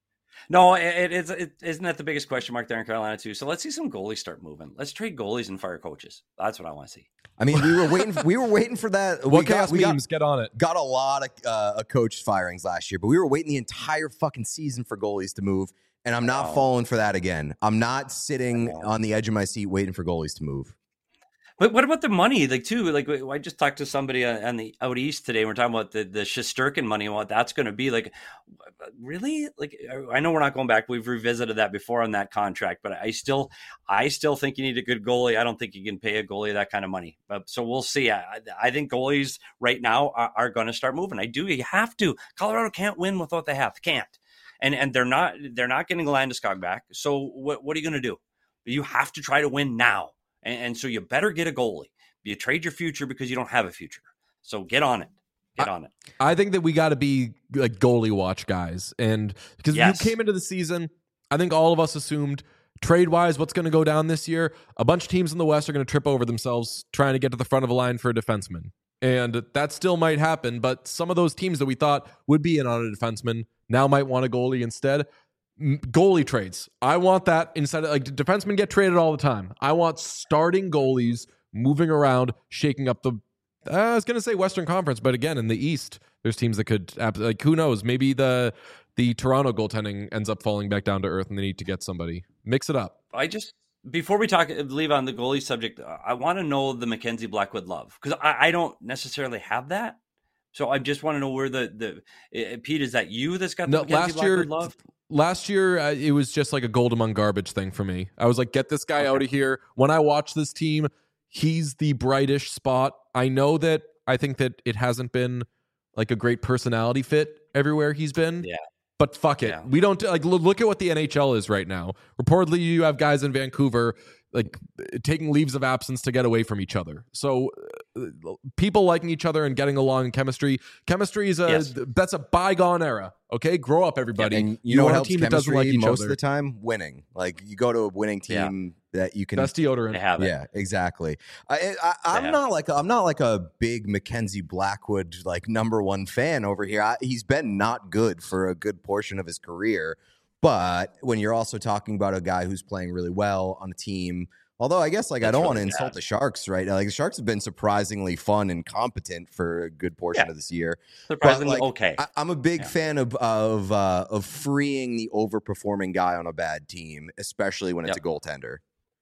Speaker 4: No, it, it is. It, isn't that the biggest question mark there in Carolina too? So let's see some goalies start moving. Let's trade goalies and fire coaches. That's what I want to see.
Speaker 3: I mean, we were waiting. We were waiting for that.
Speaker 1: What
Speaker 3: we got,
Speaker 1: chaos
Speaker 3: we got,
Speaker 1: memes? Get on it.
Speaker 3: got a lot of uh, of coach firings last year, but we were waiting the entire fucking season for goalies to move, and I'm not
Speaker 4: Oh.
Speaker 3: falling for that again. I'm not sitting
Speaker 4: I know.
Speaker 3: on the edge of my seat waiting for goalies to move.
Speaker 4: But what about the money? Like too, like I just talked to somebody on the out east today. We're talking about the the Shesterkin money and what that's going to be. Like, really? Like, I know we're not going back. We've revisited that before on that contract, but I still, I still think you need a good goalie. I don't think you can pay a goalie that kind of money. But so we'll see. I, I think goalies right now are, are going to start moving. I do. You have to. Colorado can't win with what they have. Can't. And and they're not they're not getting Landeskog back. So what what are you going to do? You have to try to win now. And, and so you better get a goalie. You trade your future because you don't have a future. So get on it. Get on it.
Speaker 1: I think that we got to be like goalie watch guys, and because
Speaker 4: Yes.
Speaker 1: you came into the season, I think all of us assumed trade wise what's going to go down this year. A bunch of teams in the West are going to trip over themselves trying to get to the front of a line for a defenseman, and that still might happen. But some of those teams that we thought would be in on a defenseman now might want a goalie instead. M- Goalie trades. I want that instead of like defensemen get traded all the time. I want starting goalies moving around, shaking up the. Uh, I was going to say Western Conference, but again, in the East, there's teams that could like who knows? Maybe the the Toronto goaltending ends up falling back down to earth, and they need to get somebody. Mix it up.
Speaker 4: I just before we talk leave on the goalie subject, I want to know the Mackenzie Blackwood love because I, I don't necessarily have that. So I just want to know where the the uh, Pete, is that you that's got the
Speaker 1: No,
Speaker 4: Mackenzie
Speaker 1: last year,
Speaker 4: Blackwood love?
Speaker 1: last year uh, it was just like a gold among garbage thing for me. I was like, get this guy out of here. When I watch this team, he's the brightish spot. I know that I think that it hasn't been like a great personality fit everywhere he's been.
Speaker 4: Yeah.
Speaker 1: But fuck it.
Speaker 4: Yeah.
Speaker 1: We don't like lo- look at what the N H L is right now. Reportedly, you have guys in Vancouver like taking leaves of absence to get away from each other. So uh, people liking each other and getting along in chemistry. Chemistry is a
Speaker 4: Yes.
Speaker 1: that's a bygone era. Okay, grow up, everybody.
Speaker 3: And you, know what
Speaker 1: want a
Speaker 3: helps
Speaker 1: team that doesn't like
Speaker 3: chemistry
Speaker 1: each
Speaker 3: most
Speaker 1: other.
Speaker 3: of the time? Winning. Like you go to a winning
Speaker 4: Yeah.
Speaker 3: team that you can.
Speaker 1: Best deodorant.
Speaker 4: They have it.
Speaker 3: Yeah, exactly. I, I, I'm
Speaker 4: Yeah.
Speaker 3: not like I'm not like a big Mackenzie Blackwood like number one fan over here. I, he's been not good for a good portion of his career, but when you're also talking about a guy who's playing really well on a team, although I guess like I
Speaker 4: That's
Speaker 3: don't want to
Speaker 4: really
Speaker 3: insult
Speaker 4: bad.
Speaker 3: the Sharks, right? Like the Sharks have been surprisingly fun and competent for a good portion
Speaker 4: Yeah.
Speaker 3: of this year.
Speaker 4: Surprisingly
Speaker 3: But, like,
Speaker 4: okay.
Speaker 3: I, I'm a big
Speaker 4: Yeah.
Speaker 3: fan of of uh, of freeing the overperforming guy on a bad team, especially when it's
Speaker 4: Yep.
Speaker 3: a goaltender.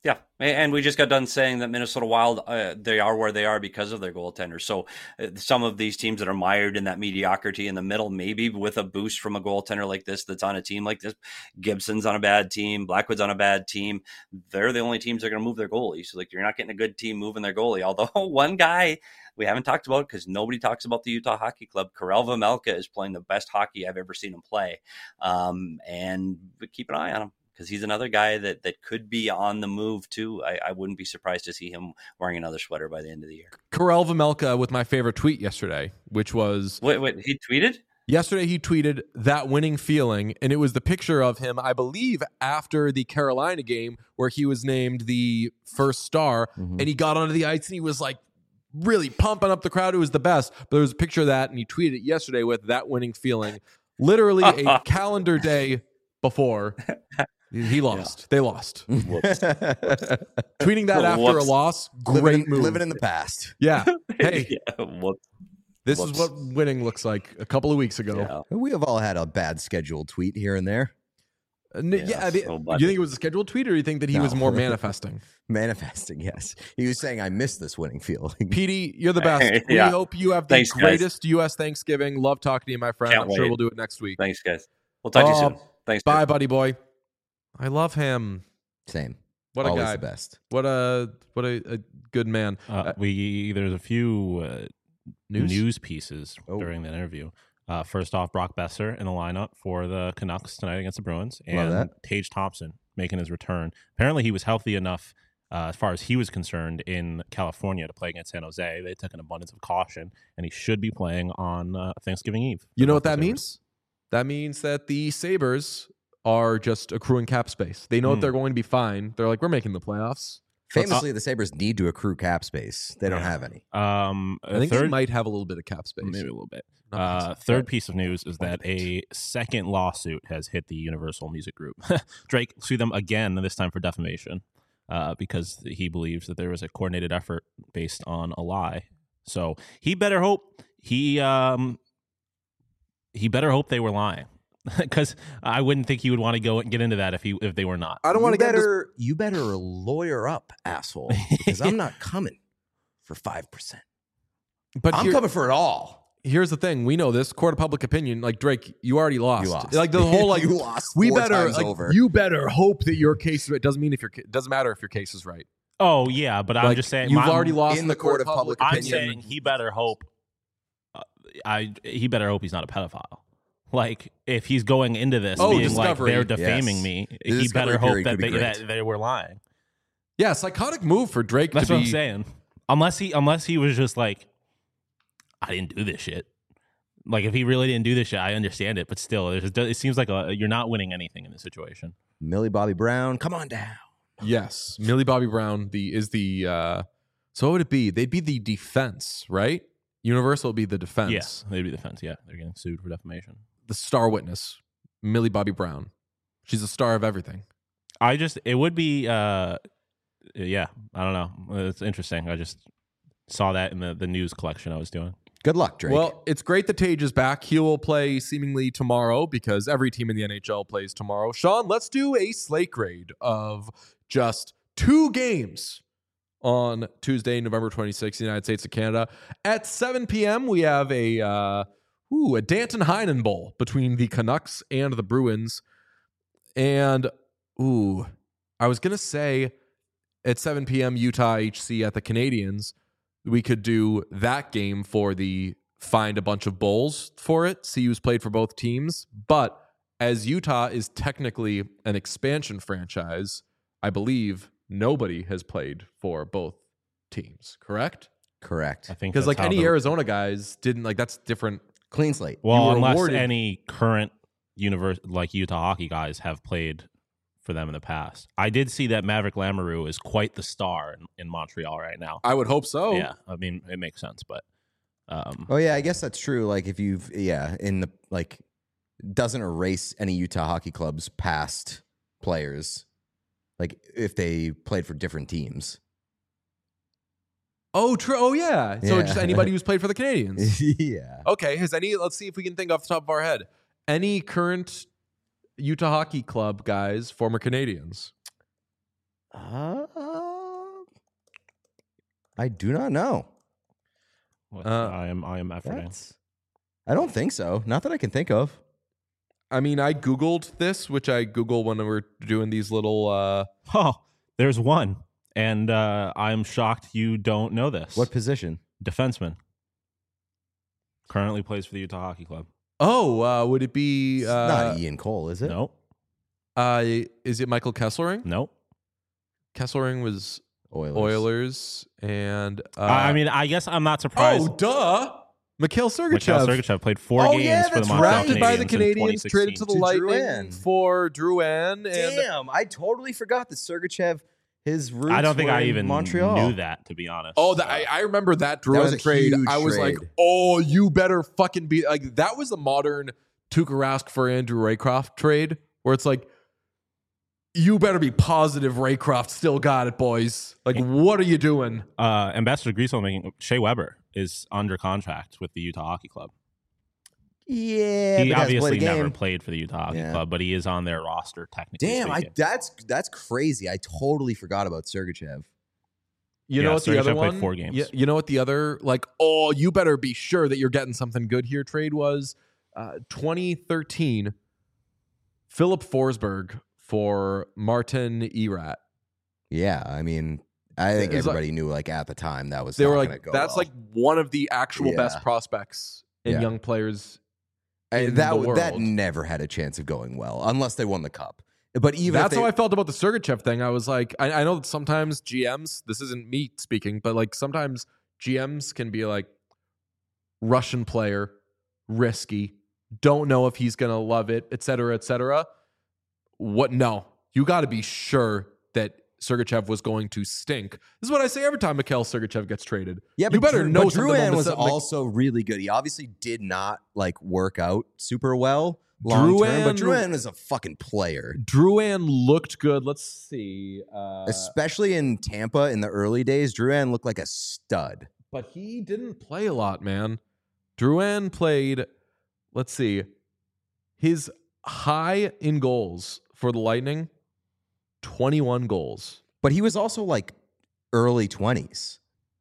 Speaker 4: Yeah, and we just got done saying that Minnesota Wild, uh, they are where they are because of their goaltender. So uh, some of these teams that are mired in that mediocrity in the middle, maybe with a boost from a goaltender like this that's on a team like this, Gibson's on a bad team, Blackwood's on a bad team, they're the only teams that are going to move their goalie. So like you're not getting a good team moving their goalie. Although one guy we haven't talked about because nobody talks about the Utah Hockey Club, Karel Vejmelka is playing the best hockey I've ever seen him play. Um, and keep an eye on him, because he's another guy that that could be on the move too. I, I wouldn't be surprised to see him wearing another sweater by the end of the year.
Speaker 1: Karel Vejmelka with my favorite tweet yesterday, which was
Speaker 4: Wait, wait, he tweeted?
Speaker 1: yesterday he tweeted that winning feeling, and it was the picture of him, I believe, after the Carolina game where he was named the first star,
Speaker 3: Mhm.
Speaker 1: and he got onto the ice and he was like really pumping up the crowd. It was the best. But there was a picture of that, and he tweeted it yesterday with that winning feeling, literally a calendar day before. He lost. Yeah. They lost.
Speaker 4: Whoops.
Speaker 1: Tweeting that after
Speaker 4: Whoops.
Speaker 1: a loss, great
Speaker 3: living,
Speaker 1: move.
Speaker 3: living in the past.
Speaker 1: Yeah. Hey,
Speaker 4: yeah, whoops.
Speaker 1: this
Speaker 4: Whoops.
Speaker 1: is what winning looks like a couple of weeks ago.
Speaker 4: Yeah.
Speaker 3: We have all had a bad scheduled tweet here and there.
Speaker 1: Uh, n- yeah.
Speaker 4: Yeah,
Speaker 1: the-
Speaker 4: so
Speaker 1: do you think it was a scheduled tweet, or do you think that he
Speaker 3: No.
Speaker 1: was more manifesting?
Speaker 3: Manifesting, yes. He was saying, I miss this winning feeling.
Speaker 1: Petey, you're the best.
Speaker 4: Yeah.
Speaker 1: We hope you have the
Speaker 4: Thanks, guys.
Speaker 1: greatest U S Thanksgiving. Love talking to you, my friend.
Speaker 4: Can't
Speaker 1: I'm sure
Speaker 4: wait.
Speaker 1: we'll do it next week.
Speaker 4: Thanks, guys. We'll talk to you
Speaker 1: Oh,
Speaker 4: soon. Thanks.
Speaker 1: Bye,
Speaker 4: guys.
Speaker 1: buddy boy. I love him.
Speaker 3: Same.
Speaker 1: What a
Speaker 3: Always
Speaker 1: guy.
Speaker 3: the best.
Speaker 1: What a what a, a good man.
Speaker 2: Uh, we there's a few uh,
Speaker 1: News?
Speaker 2: news? pieces
Speaker 3: Oh.
Speaker 2: during the interview. Uh, first off, Brock Besser in the lineup for the Canucks tonight against the Bruins,
Speaker 3: Love
Speaker 2: and
Speaker 3: that.
Speaker 2: Tage Thompson making his return. Apparently, he was healthy enough, uh, as far as he was concerned, in California to play against San Jose. They took an abundance of caution, and he should be playing on uh, Thanksgiving Eve.
Speaker 1: You know what
Speaker 2: for
Speaker 1: that
Speaker 2: the
Speaker 1: means? That means that the Sabres are just accruing cap space. They know that
Speaker 2: Hmm.
Speaker 1: they're going to be fine. They're like, we're making the playoffs.
Speaker 3: Famously, the Sabres need to accrue cap space. They don't
Speaker 2: Yeah.
Speaker 3: have any.
Speaker 2: Um,
Speaker 1: I think
Speaker 2: third,
Speaker 1: they might have a little bit of cap space.
Speaker 2: maybe a little bit.
Speaker 1: Not
Speaker 2: Uh,
Speaker 1: much.
Speaker 2: third piece of news is that a second lawsuit has hit the Universal Music Group. Drake sued them again, this time for defamation, uh, because he believes that there was a coordinated effort based on a lie. So he better hope he um, he better hope they were lying, because I wouldn't think he would want to go and get into that if he if they were not.
Speaker 1: I don't want to
Speaker 3: you
Speaker 1: get into
Speaker 3: better, you better lawyer up, asshole, because I'm not coming for five percent.
Speaker 1: but
Speaker 3: I'm
Speaker 1: here-
Speaker 3: coming for it all.
Speaker 1: here's the thing. We know this court of public opinion. Like Drake, you already lost.
Speaker 3: You lost.
Speaker 1: Like the whole like
Speaker 3: you lost
Speaker 1: we
Speaker 3: four
Speaker 1: better
Speaker 3: times
Speaker 1: like,
Speaker 3: over.
Speaker 1: you better hope that your case is right. Doesn't mean if your ca- doesn't matter if your case is right.
Speaker 2: Oh yeah, but I'm
Speaker 1: Like,
Speaker 2: just saying
Speaker 1: you've
Speaker 2: my-
Speaker 1: already lost
Speaker 3: in the court of public
Speaker 2: I'm
Speaker 3: opinion.
Speaker 2: saying he better hope. Uh, I he better hope he's not a pedophile. Like if he's going into this
Speaker 1: Oh,
Speaker 2: being
Speaker 1: discovery.
Speaker 2: like they're defaming
Speaker 3: Yes.
Speaker 2: me,
Speaker 3: The
Speaker 2: he
Speaker 3: discovery
Speaker 2: better hope
Speaker 3: period
Speaker 2: that
Speaker 3: could be
Speaker 2: they,
Speaker 3: great.
Speaker 2: that they were lying.
Speaker 1: Yeah, psychotic move for Drake
Speaker 2: That's
Speaker 1: to
Speaker 2: what
Speaker 1: be.
Speaker 2: I'm saying. Unless he unless he was just like, I didn't do this shit. Like if he really didn't do this shit, I understand it. But still, there's, it seems like a, you're not winning anything in this situation.
Speaker 3: Millie Bobby Brown, come on down.
Speaker 1: Yes, Millie Bobby Brown. The is the. uh So what would it be? They'd be the defense, right? Universal would be the defense.
Speaker 2: Yeah, they'd be the defense. Yeah, they're getting sued for defamation.
Speaker 1: The star witness, Millie Bobby Brown. She's a star of everything.
Speaker 2: I just it would be uh yeah, I don't know. It's interesting. I just saw that in the, the news collection I was doing.
Speaker 3: Good luck, Drake.
Speaker 1: Well, it's great that Tage is back. He will play seemingly tomorrow because every team in the N H L plays tomorrow. Sean, let's do a slate grade of just two games on Tuesday, November twenty-sixth, United States of Canada. At seven p.m., we have a uh, ooh, a Danton Heinen Bowl between the Canucks and the Bruins. And, ooh, I was going to say at seven p.m., Utah H C at the Canadians. We could do that game for the find a bunch of bowls for it, see who's played for both teams. But as Utah is technically an expansion franchise, I believe nobody has played for both teams, correct?
Speaker 3: Correct.
Speaker 2: I think
Speaker 1: Because
Speaker 2: that's
Speaker 1: like
Speaker 2: how
Speaker 1: any
Speaker 2: the-
Speaker 1: Arizona guys didn't like that's different.
Speaker 3: Clean slate.
Speaker 1: you
Speaker 2: well,
Speaker 1: were
Speaker 2: unless
Speaker 1: awarded-
Speaker 2: any current universe like Utah hockey guys have played for them in the past. I did see that Maverick Lamoureux is quite the star in, in Montreal right now.
Speaker 1: I would hope so.
Speaker 2: Yeah, I mean it makes sense, but um,
Speaker 3: Oh yeah, I guess that's true. Like if you've yeah, in the like doesn't erase any Utah hockey club's past players. Like if they played for different teams.
Speaker 1: Oh, true. Oh, yeah. So
Speaker 3: Yeah.
Speaker 1: just anybody who's played for the Canadians.
Speaker 3: yeah.
Speaker 1: Okay. Has any? Let's see if we can think off the top of our head. Any current Utah Hockey Club guys, former Canadians?
Speaker 3: Uh, I do not know.
Speaker 2: What,
Speaker 1: Uh,
Speaker 2: I am I am efforting.
Speaker 3: That's, I don't think so. Not that I can think of.
Speaker 1: I mean, I Googled this, which I Google when we're doing these little. Uh,
Speaker 2: Oh, there's one, and uh, I'm shocked you don't know this.
Speaker 3: What position?
Speaker 2: Defenseman. Currently plays for the Utah Hockey Club.
Speaker 1: oh, uh, would it be?
Speaker 3: It's
Speaker 1: Uh,
Speaker 3: not Ian Cole, is it?
Speaker 2: No,
Speaker 1: uh, is it Michael Kesselring?
Speaker 2: no.
Speaker 1: Kesselring was
Speaker 3: Oilers.
Speaker 1: Oilers, and uh,
Speaker 2: I mean, I guess I'm not surprised.
Speaker 1: oh, duh, Mikhail Sergachev.
Speaker 2: Mikhail Sergachev played four
Speaker 3: Oh,
Speaker 2: games
Speaker 3: yeah,
Speaker 2: for the
Speaker 3: that's
Speaker 2: Montreal
Speaker 3: right.
Speaker 1: drafted
Speaker 2: Canadiens
Speaker 1: by the
Speaker 2: in
Speaker 1: Canadians,
Speaker 2: twenty
Speaker 1: traded to the
Speaker 2: sixteen.
Speaker 3: To
Speaker 1: Lightning
Speaker 3: Drouin.
Speaker 1: for Drouin, and
Speaker 3: Damn, I totally forgot that Sergachev, his roots
Speaker 2: I don't think
Speaker 3: were
Speaker 2: I
Speaker 3: in
Speaker 2: even
Speaker 3: Montreal.
Speaker 2: knew that, to be honest.
Speaker 1: oh, the, I, I remember that
Speaker 3: was
Speaker 1: Drouin
Speaker 3: a
Speaker 1: trade.
Speaker 3: huge
Speaker 1: I was like,
Speaker 3: trade.
Speaker 1: oh, you better fucking be like that was the modern Tuukka Rask for Andrew Raycroft trade, where it's like, you better be positive Raycroft still got it, boys. Like, what are you doing?
Speaker 2: uh, Ambassador Griesel making Shea Weber is under contract with the Utah Hockey Club.
Speaker 3: Yeah,
Speaker 2: he
Speaker 3: but hasn't played
Speaker 2: obviously
Speaker 3: a game.
Speaker 2: never played for the Utah Hockey
Speaker 3: Yeah.
Speaker 2: Club, but he is on their roster technically.
Speaker 3: Damn, I
Speaker 2: speaking.
Speaker 3: that's that's crazy. I totally forgot about Sergachev.
Speaker 1: You
Speaker 2: Yeah,
Speaker 1: know what the
Speaker 2: Sergachev
Speaker 1: other
Speaker 2: played
Speaker 1: one?
Speaker 2: four games.
Speaker 1: You, you know what the other like? Oh, you better be sure that you're getting something good here. Trade was uh, twenty thirteen. Philip Forsberg for Martin Erat.
Speaker 3: Yeah, I mean, I think
Speaker 1: It's like-
Speaker 3: everybody knew like at the time that was
Speaker 1: They
Speaker 3: not
Speaker 1: were
Speaker 3: gonna
Speaker 1: like,
Speaker 3: go
Speaker 1: that's
Speaker 3: well.
Speaker 1: like one of the actual
Speaker 3: Yeah.
Speaker 1: best prospects in
Speaker 3: Yeah.
Speaker 1: young players.
Speaker 3: And
Speaker 1: in
Speaker 3: that
Speaker 1: the
Speaker 3: w- that
Speaker 1: world.
Speaker 3: never had a chance of going well unless they won the cup. But even
Speaker 1: That's
Speaker 3: if they,
Speaker 1: how I felt about the Sergachev thing. I was like, I, I know that sometimes G Ms, this isn't me speaking, but like sometimes G Ms can be like Russian player, risky, don't know if he's gonna love it, et cetera, et cetera. What? No, you got to be sure that Sergachev was going to stink. This is what I say every time Mikhail Sergachev gets traded.
Speaker 3: yeah,
Speaker 1: you
Speaker 3: but
Speaker 1: better
Speaker 3: Drew,
Speaker 1: know
Speaker 3: but
Speaker 1: something about
Speaker 3: Drouin was
Speaker 1: Mik-
Speaker 3: also really good. He obviously did not like work out super well long term, but
Speaker 1: Drouin-
Speaker 3: Drouin is a fucking player.
Speaker 1: Drouin looked good. Let's see. Uh,
Speaker 3: Especially in Tampa in the early days, Drouin looked like a stud.
Speaker 1: but he didn't play a lot, man. Drouin played, let's see, his high in goals for the Lightning, twenty-one goals.
Speaker 3: But he was also like early twenties.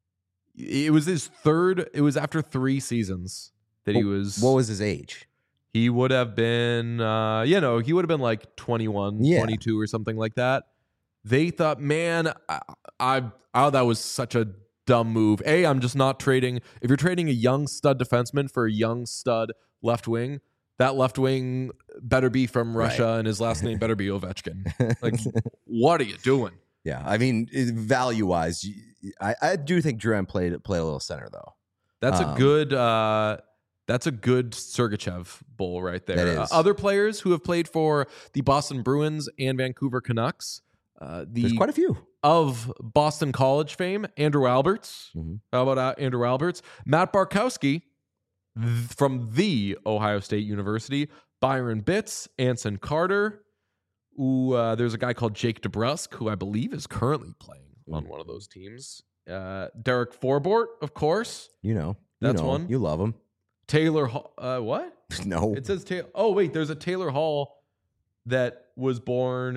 Speaker 1: It was his third, it was after three seasons that he was.
Speaker 3: What was his age?
Speaker 1: He would have been, uh, you know, he would have been like twenty-one,
Speaker 3: Yeah.
Speaker 1: twenty-two or something like that. They thought, man, I, I, oh, that was such a dumb move. A, I'm just not trading. If you're trading a young stud defenseman for a young stud left wing, that left wing better be from Russia
Speaker 3: Right.
Speaker 1: and his last name better be Ovechkin. Like, what are you doing?
Speaker 3: Yeah, I mean, value wise, I, I do think Drouin played played a little center though.
Speaker 1: That's
Speaker 3: Um,
Speaker 1: a good. Uh, that's a good Sergachev bowl right there.
Speaker 3: That is.
Speaker 1: Uh, other players who have played for the Boston Bruins and Vancouver Canucks. Uh, the
Speaker 3: There's quite a few.
Speaker 1: of Boston College fame, Andrew Alberts.
Speaker 3: Mhm.
Speaker 1: How about uh, Andrew Alberts? Matt Barkowski th- from the Ohio State University. Byron Bitts, Anson Carter. Ooh, uh, there's a guy called Jake DeBrusk, who I believe is currently playing on one of those teams. Uh, Derek Forbort, of course.
Speaker 3: You know, you
Speaker 1: That's
Speaker 3: know,
Speaker 1: one.
Speaker 3: You love him.
Speaker 1: Taylor Hall. Uh, what?
Speaker 3: No,
Speaker 1: It says Taylor. Oh, wait. There's a Taylor Hall that was born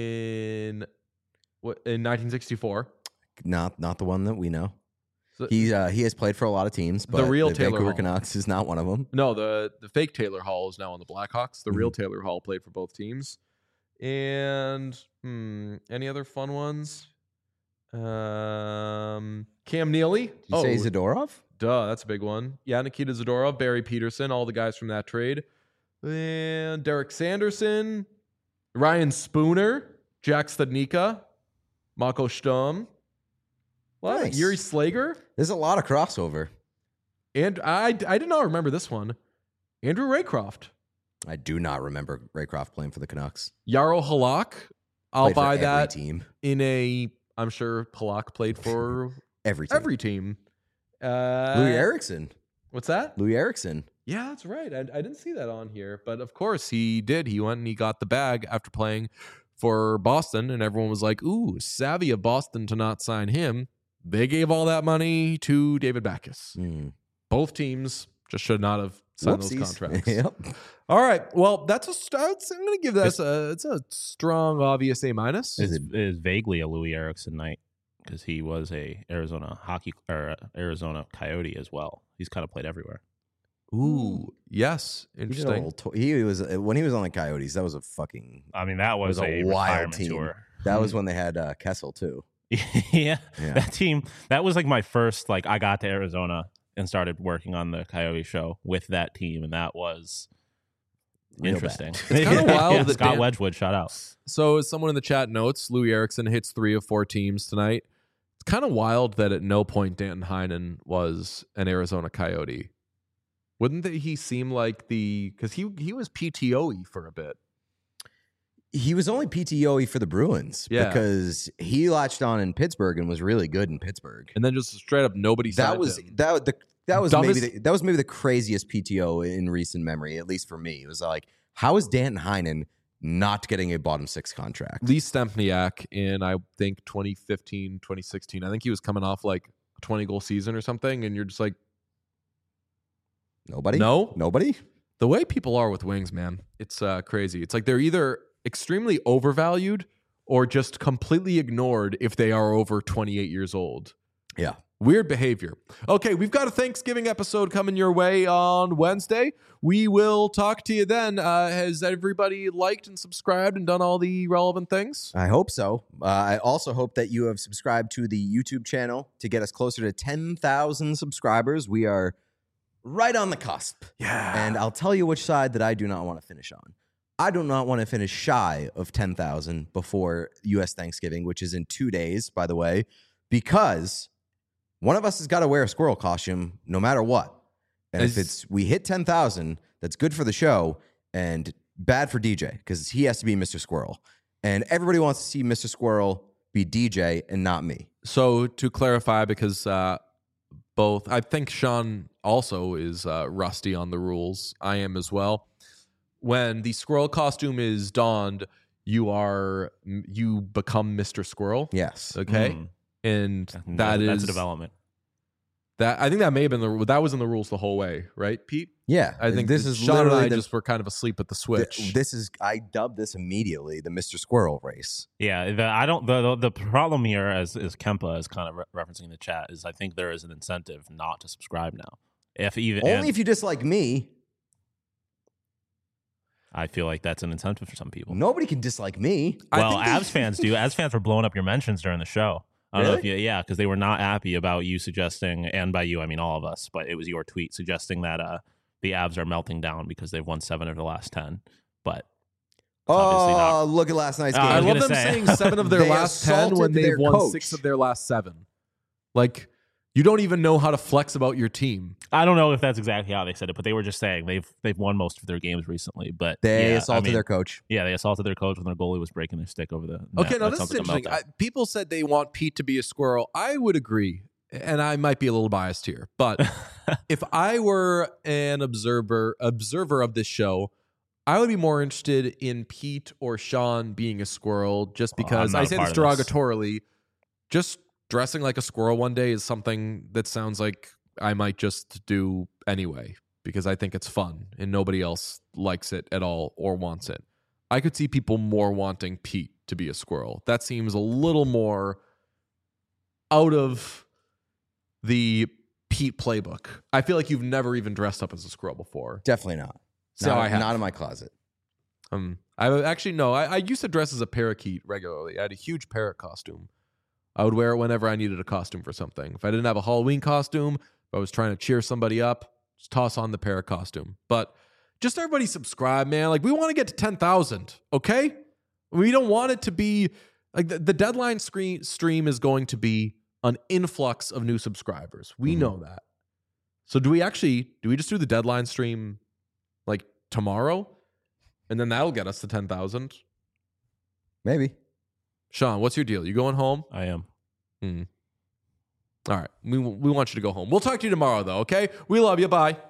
Speaker 1: in what in nineteen sixty-four.
Speaker 3: not not the one that we know.
Speaker 1: So,
Speaker 3: He uh, he has played for a lot of teams, but
Speaker 1: real
Speaker 3: the
Speaker 1: Taylor
Speaker 3: Vancouver
Speaker 1: Hall.
Speaker 3: Canucks is not one of them.
Speaker 1: no, the the fake Taylor Hall is now on the Blackhawks. The real
Speaker 3: Mm-hmm.
Speaker 1: Taylor Hall played for both teams. And hmm, any other fun ones? Um, Cam Neely.
Speaker 3: Did you say Zadorov?
Speaker 1: Duh, that's a big one. Yeah, Nikita Zadorov, Barry Peterson, all the guys from that trade. And Derek Sanderson, Ryan Spooner, Jack Studnicka, Mako Sturm. What?
Speaker 3: Nice.
Speaker 1: Yuri Slager?
Speaker 3: There's a lot of crossover.
Speaker 1: And I, I did not remember this one. Andrew Raycroft.
Speaker 3: I do not remember Raycroft playing for the Canucks.
Speaker 1: Yarrow Halak. I'll
Speaker 3: Played for
Speaker 1: buy
Speaker 3: every
Speaker 1: that
Speaker 3: team.
Speaker 1: in a, I'm sure Halak played for
Speaker 3: Every team.
Speaker 1: every team. Uh,
Speaker 3: Louis Erickson.
Speaker 1: What's that?
Speaker 3: Louis Erickson.
Speaker 1: Yeah, that's right. I, I didn't see that on here, but of course he did. He went and he got the bag after playing for Boston, and everyone was like, "Ooh, savvy of Boston to not sign him." They gave all that money to David Backes.
Speaker 3: Mm.
Speaker 1: Both teams just should not have signed those
Speaker 3: Whoopsies.
Speaker 1: contracts.
Speaker 3: Yep.
Speaker 1: All right. Well, that's a start. I'm going to give that a it's a strong, obvious A minus.
Speaker 3: Is
Speaker 2: It's,
Speaker 3: it-
Speaker 2: it is vaguely a Louis Erickson night because he was a Arizona hockey or Arizona Coyote as well. He's kind of played everywhere.
Speaker 1: Ooh, yes,
Speaker 3: He, did a
Speaker 1: interesting.
Speaker 3: little to- he was when he was on the Coyotes. That was a fucking.
Speaker 2: I mean, that was,
Speaker 3: was a
Speaker 2: a,
Speaker 3: wild
Speaker 2: retirement
Speaker 3: team.
Speaker 2: tour.
Speaker 3: That was when they had uh, Kessel too.
Speaker 2: yeah,
Speaker 3: Yeah.
Speaker 2: that team. That was like my first. Like, I got to Arizona and started working on the Coyote show with that team, and that was
Speaker 3: Real
Speaker 2: interesting.
Speaker 3: bad.
Speaker 1: It's kinda wild
Speaker 2: Yeah,
Speaker 1: that
Speaker 2: Scott
Speaker 1: Dan-
Speaker 2: Wedgwood, shout out.
Speaker 1: So, as someone in the chat notes, Louis Erickson hits three of four teams tonight. It's kind of wild that at no point Danton Heinen was an Arizona Coyote. Wouldn't that he seem like the because he he was P T O E for a bit?
Speaker 3: He was only P T O E for the Bruins
Speaker 1: Yeah.
Speaker 3: because he latched on in Pittsburgh and was really good in Pittsburgh.
Speaker 1: And then just straight up nobody.
Speaker 3: That
Speaker 1: signed
Speaker 3: was
Speaker 1: him.
Speaker 3: that the that was
Speaker 1: Dumbest-
Speaker 3: maybe the, that was maybe the craziest P T O in recent memory, at least for me. It was like, how is Danton Heinen not getting a bottom six contract?
Speaker 1: Lee Stempniak in I think twenty fifteen, twenty sixteen. I think he was coming off like a twenty goal season or something, and you're just like,
Speaker 3: Nobody?
Speaker 1: No.
Speaker 3: Nobody?
Speaker 1: the way people are with wings, man, it's uh, crazy. It's like they're either extremely overvalued or just completely ignored if they are over twenty-eight years old.
Speaker 3: Yeah.
Speaker 1: Weird behavior. Okay, we've got a Thanksgiving episode coming your way on Wednesday. We will talk to you then. Uh, has everybody liked and subscribed and done all the relevant things?
Speaker 3: I hope so. Uh, I also hope that you have subscribed to the YouTube channel to get us closer to ten thousand subscribers. We are right on the cusp.
Speaker 1: Yeah.
Speaker 3: And I'll tell you which side that I do not want to finish on. I do not want to finish shy of ten thousand before U S Thanksgiving, which is in two days, by the way, because one of us has got to wear a squirrel costume no matter what. And
Speaker 1: As-
Speaker 3: if it's we hit ten thousand, that's good for the show and bad for D J because he has to be Mister Squirrel. And everybody wants to see Mister Squirrel be D J and not me.
Speaker 1: So to clarify, because uh, both, I think Sean also is uh, rusty on the rules. I am as well. When the squirrel costume is donned, you are you become Mister Squirrel.
Speaker 3: Yes.
Speaker 1: Okay,
Speaker 2: Mm.
Speaker 1: and
Speaker 2: That-
Speaker 1: that is
Speaker 2: that's a development.
Speaker 1: that. I think that may have been the that was in the rules the whole way, right, Pete?
Speaker 3: Yeah.
Speaker 1: I think
Speaker 3: this
Speaker 1: that
Speaker 3: is
Speaker 1: Sean and
Speaker 3: literally
Speaker 1: I
Speaker 3: the,
Speaker 1: just were kind of asleep at the
Speaker 3: th-
Speaker 1: switch.
Speaker 3: this is I dubbed this immediately the Mister Squirrel race.
Speaker 2: Yeah, the, I don't. The, the the problem here, as as Kempa is kind of re- referencing the chat, is I think there is an incentive not to subscribe now. If even
Speaker 3: Only
Speaker 2: and
Speaker 3: if you dislike me.
Speaker 2: I feel like that's an incentive for some people.
Speaker 3: Nobody can dislike me.
Speaker 1: I
Speaker 2: Well,
Speaker 1: think they-
Speaker 2: Avs fans do. Avs fans were blowing up your mentions during the show. I don't know if you, yeah, because they were not happy about you suggesting, and by you I mean all of us, but it was your tweet suggesting that uh, the Avs are melting down because they've won seven of the last ten. But obviously
Speaker 3: Oh, look at last night's
Speaker 2: Uh,
Speaker 3: game.
Speaker 1: I
Speaker 2: was
Speaker 1: love
Speaker 2: gonna
Speaker 1: them
Speaker 2: say.
Speaker 1: saying seven of their
Speaker 3: They
Speaker 1: last ten
Speaker 3: assaulted
Speaker 1: when they've
Speaker 3: their
Speaker 1: won
Speaker 3: coach.
Speaker 1: six of their last seven. Like, you don't even know how to flex about your team.
Speaker 2: I don't know if that's exactly how they said it, but they were just saying they've they've won most of their games recently. But
Speaker 3: They
Speaker 2: yeah,
Speaker 3: assaulted
Speaker 2: I mean,
Speaker 3: their coach.
Speaker 2: Yeah, they assaulted their coach when their goalie was breaking their stick over the net.
Speaker 1: Okay, now
Speaker 2: That
Speaker 1: this is
Speaker 2: sounds like a
Speaker 1: interesting.
Speaker 2: meltdown.
Speaker 1: I, people said they want Pete to be a squirrel. I would agree, and I might be a little biased here, but if I were an observer observer of this show, I would be more interested in Pete or Sean being a squirrel, just
Speaker 2: Well,
Speaker 1: because
Speaker 2: I'm
Speaker 1: I
Speaker 2: not a
Speaker 1: say
Speaker 2: part
Speaker 1: this
Speaker 2: of this.
Speaker 1: derogatorily. Just dressing like a squirrel one day is something that sounds like I might just do anyway because I think it's fun and nobody else likes it at all or wants it. I could see people more wanting Pete to be a squirrel. That seems a little more out of the Pete playbook. I feel like you've never even dressed up as a squirrel before.
Speaker 3: Definitely not.
Speaker 1: So
Speaker 3: not,
Speaker 1: I have.
Speaker 3: not in my closet.
Speaker 1: Um, I actually no. I, I used to dress as a parakeet regularly. I had a huge parrot costume. I would wear it whenever I needed a costume for something. If I didn't have a Halloween costume, if I was trying to cheer somebody up, just toss on the parrot costume. But just everybody subscribe, man. Like we want to get to ten thousand, okay? We don't want it to be like the, the deadline screen stream is going to be an influx of new subscribers. We
Speaker 3: Mhm.
Speaker 1: know that. So do we actually do we just do the deadline stream like tomorrow? And then that'll get us to ten thousand.
Speaker 3: Maybe.
Speaker 1: Sean, what's your deal? You going home?
Speaker 2: I am.
Speaker 1: All right. We, we want you to go home. We'll talk to you tomorrow, though, okay? We love you. Bye.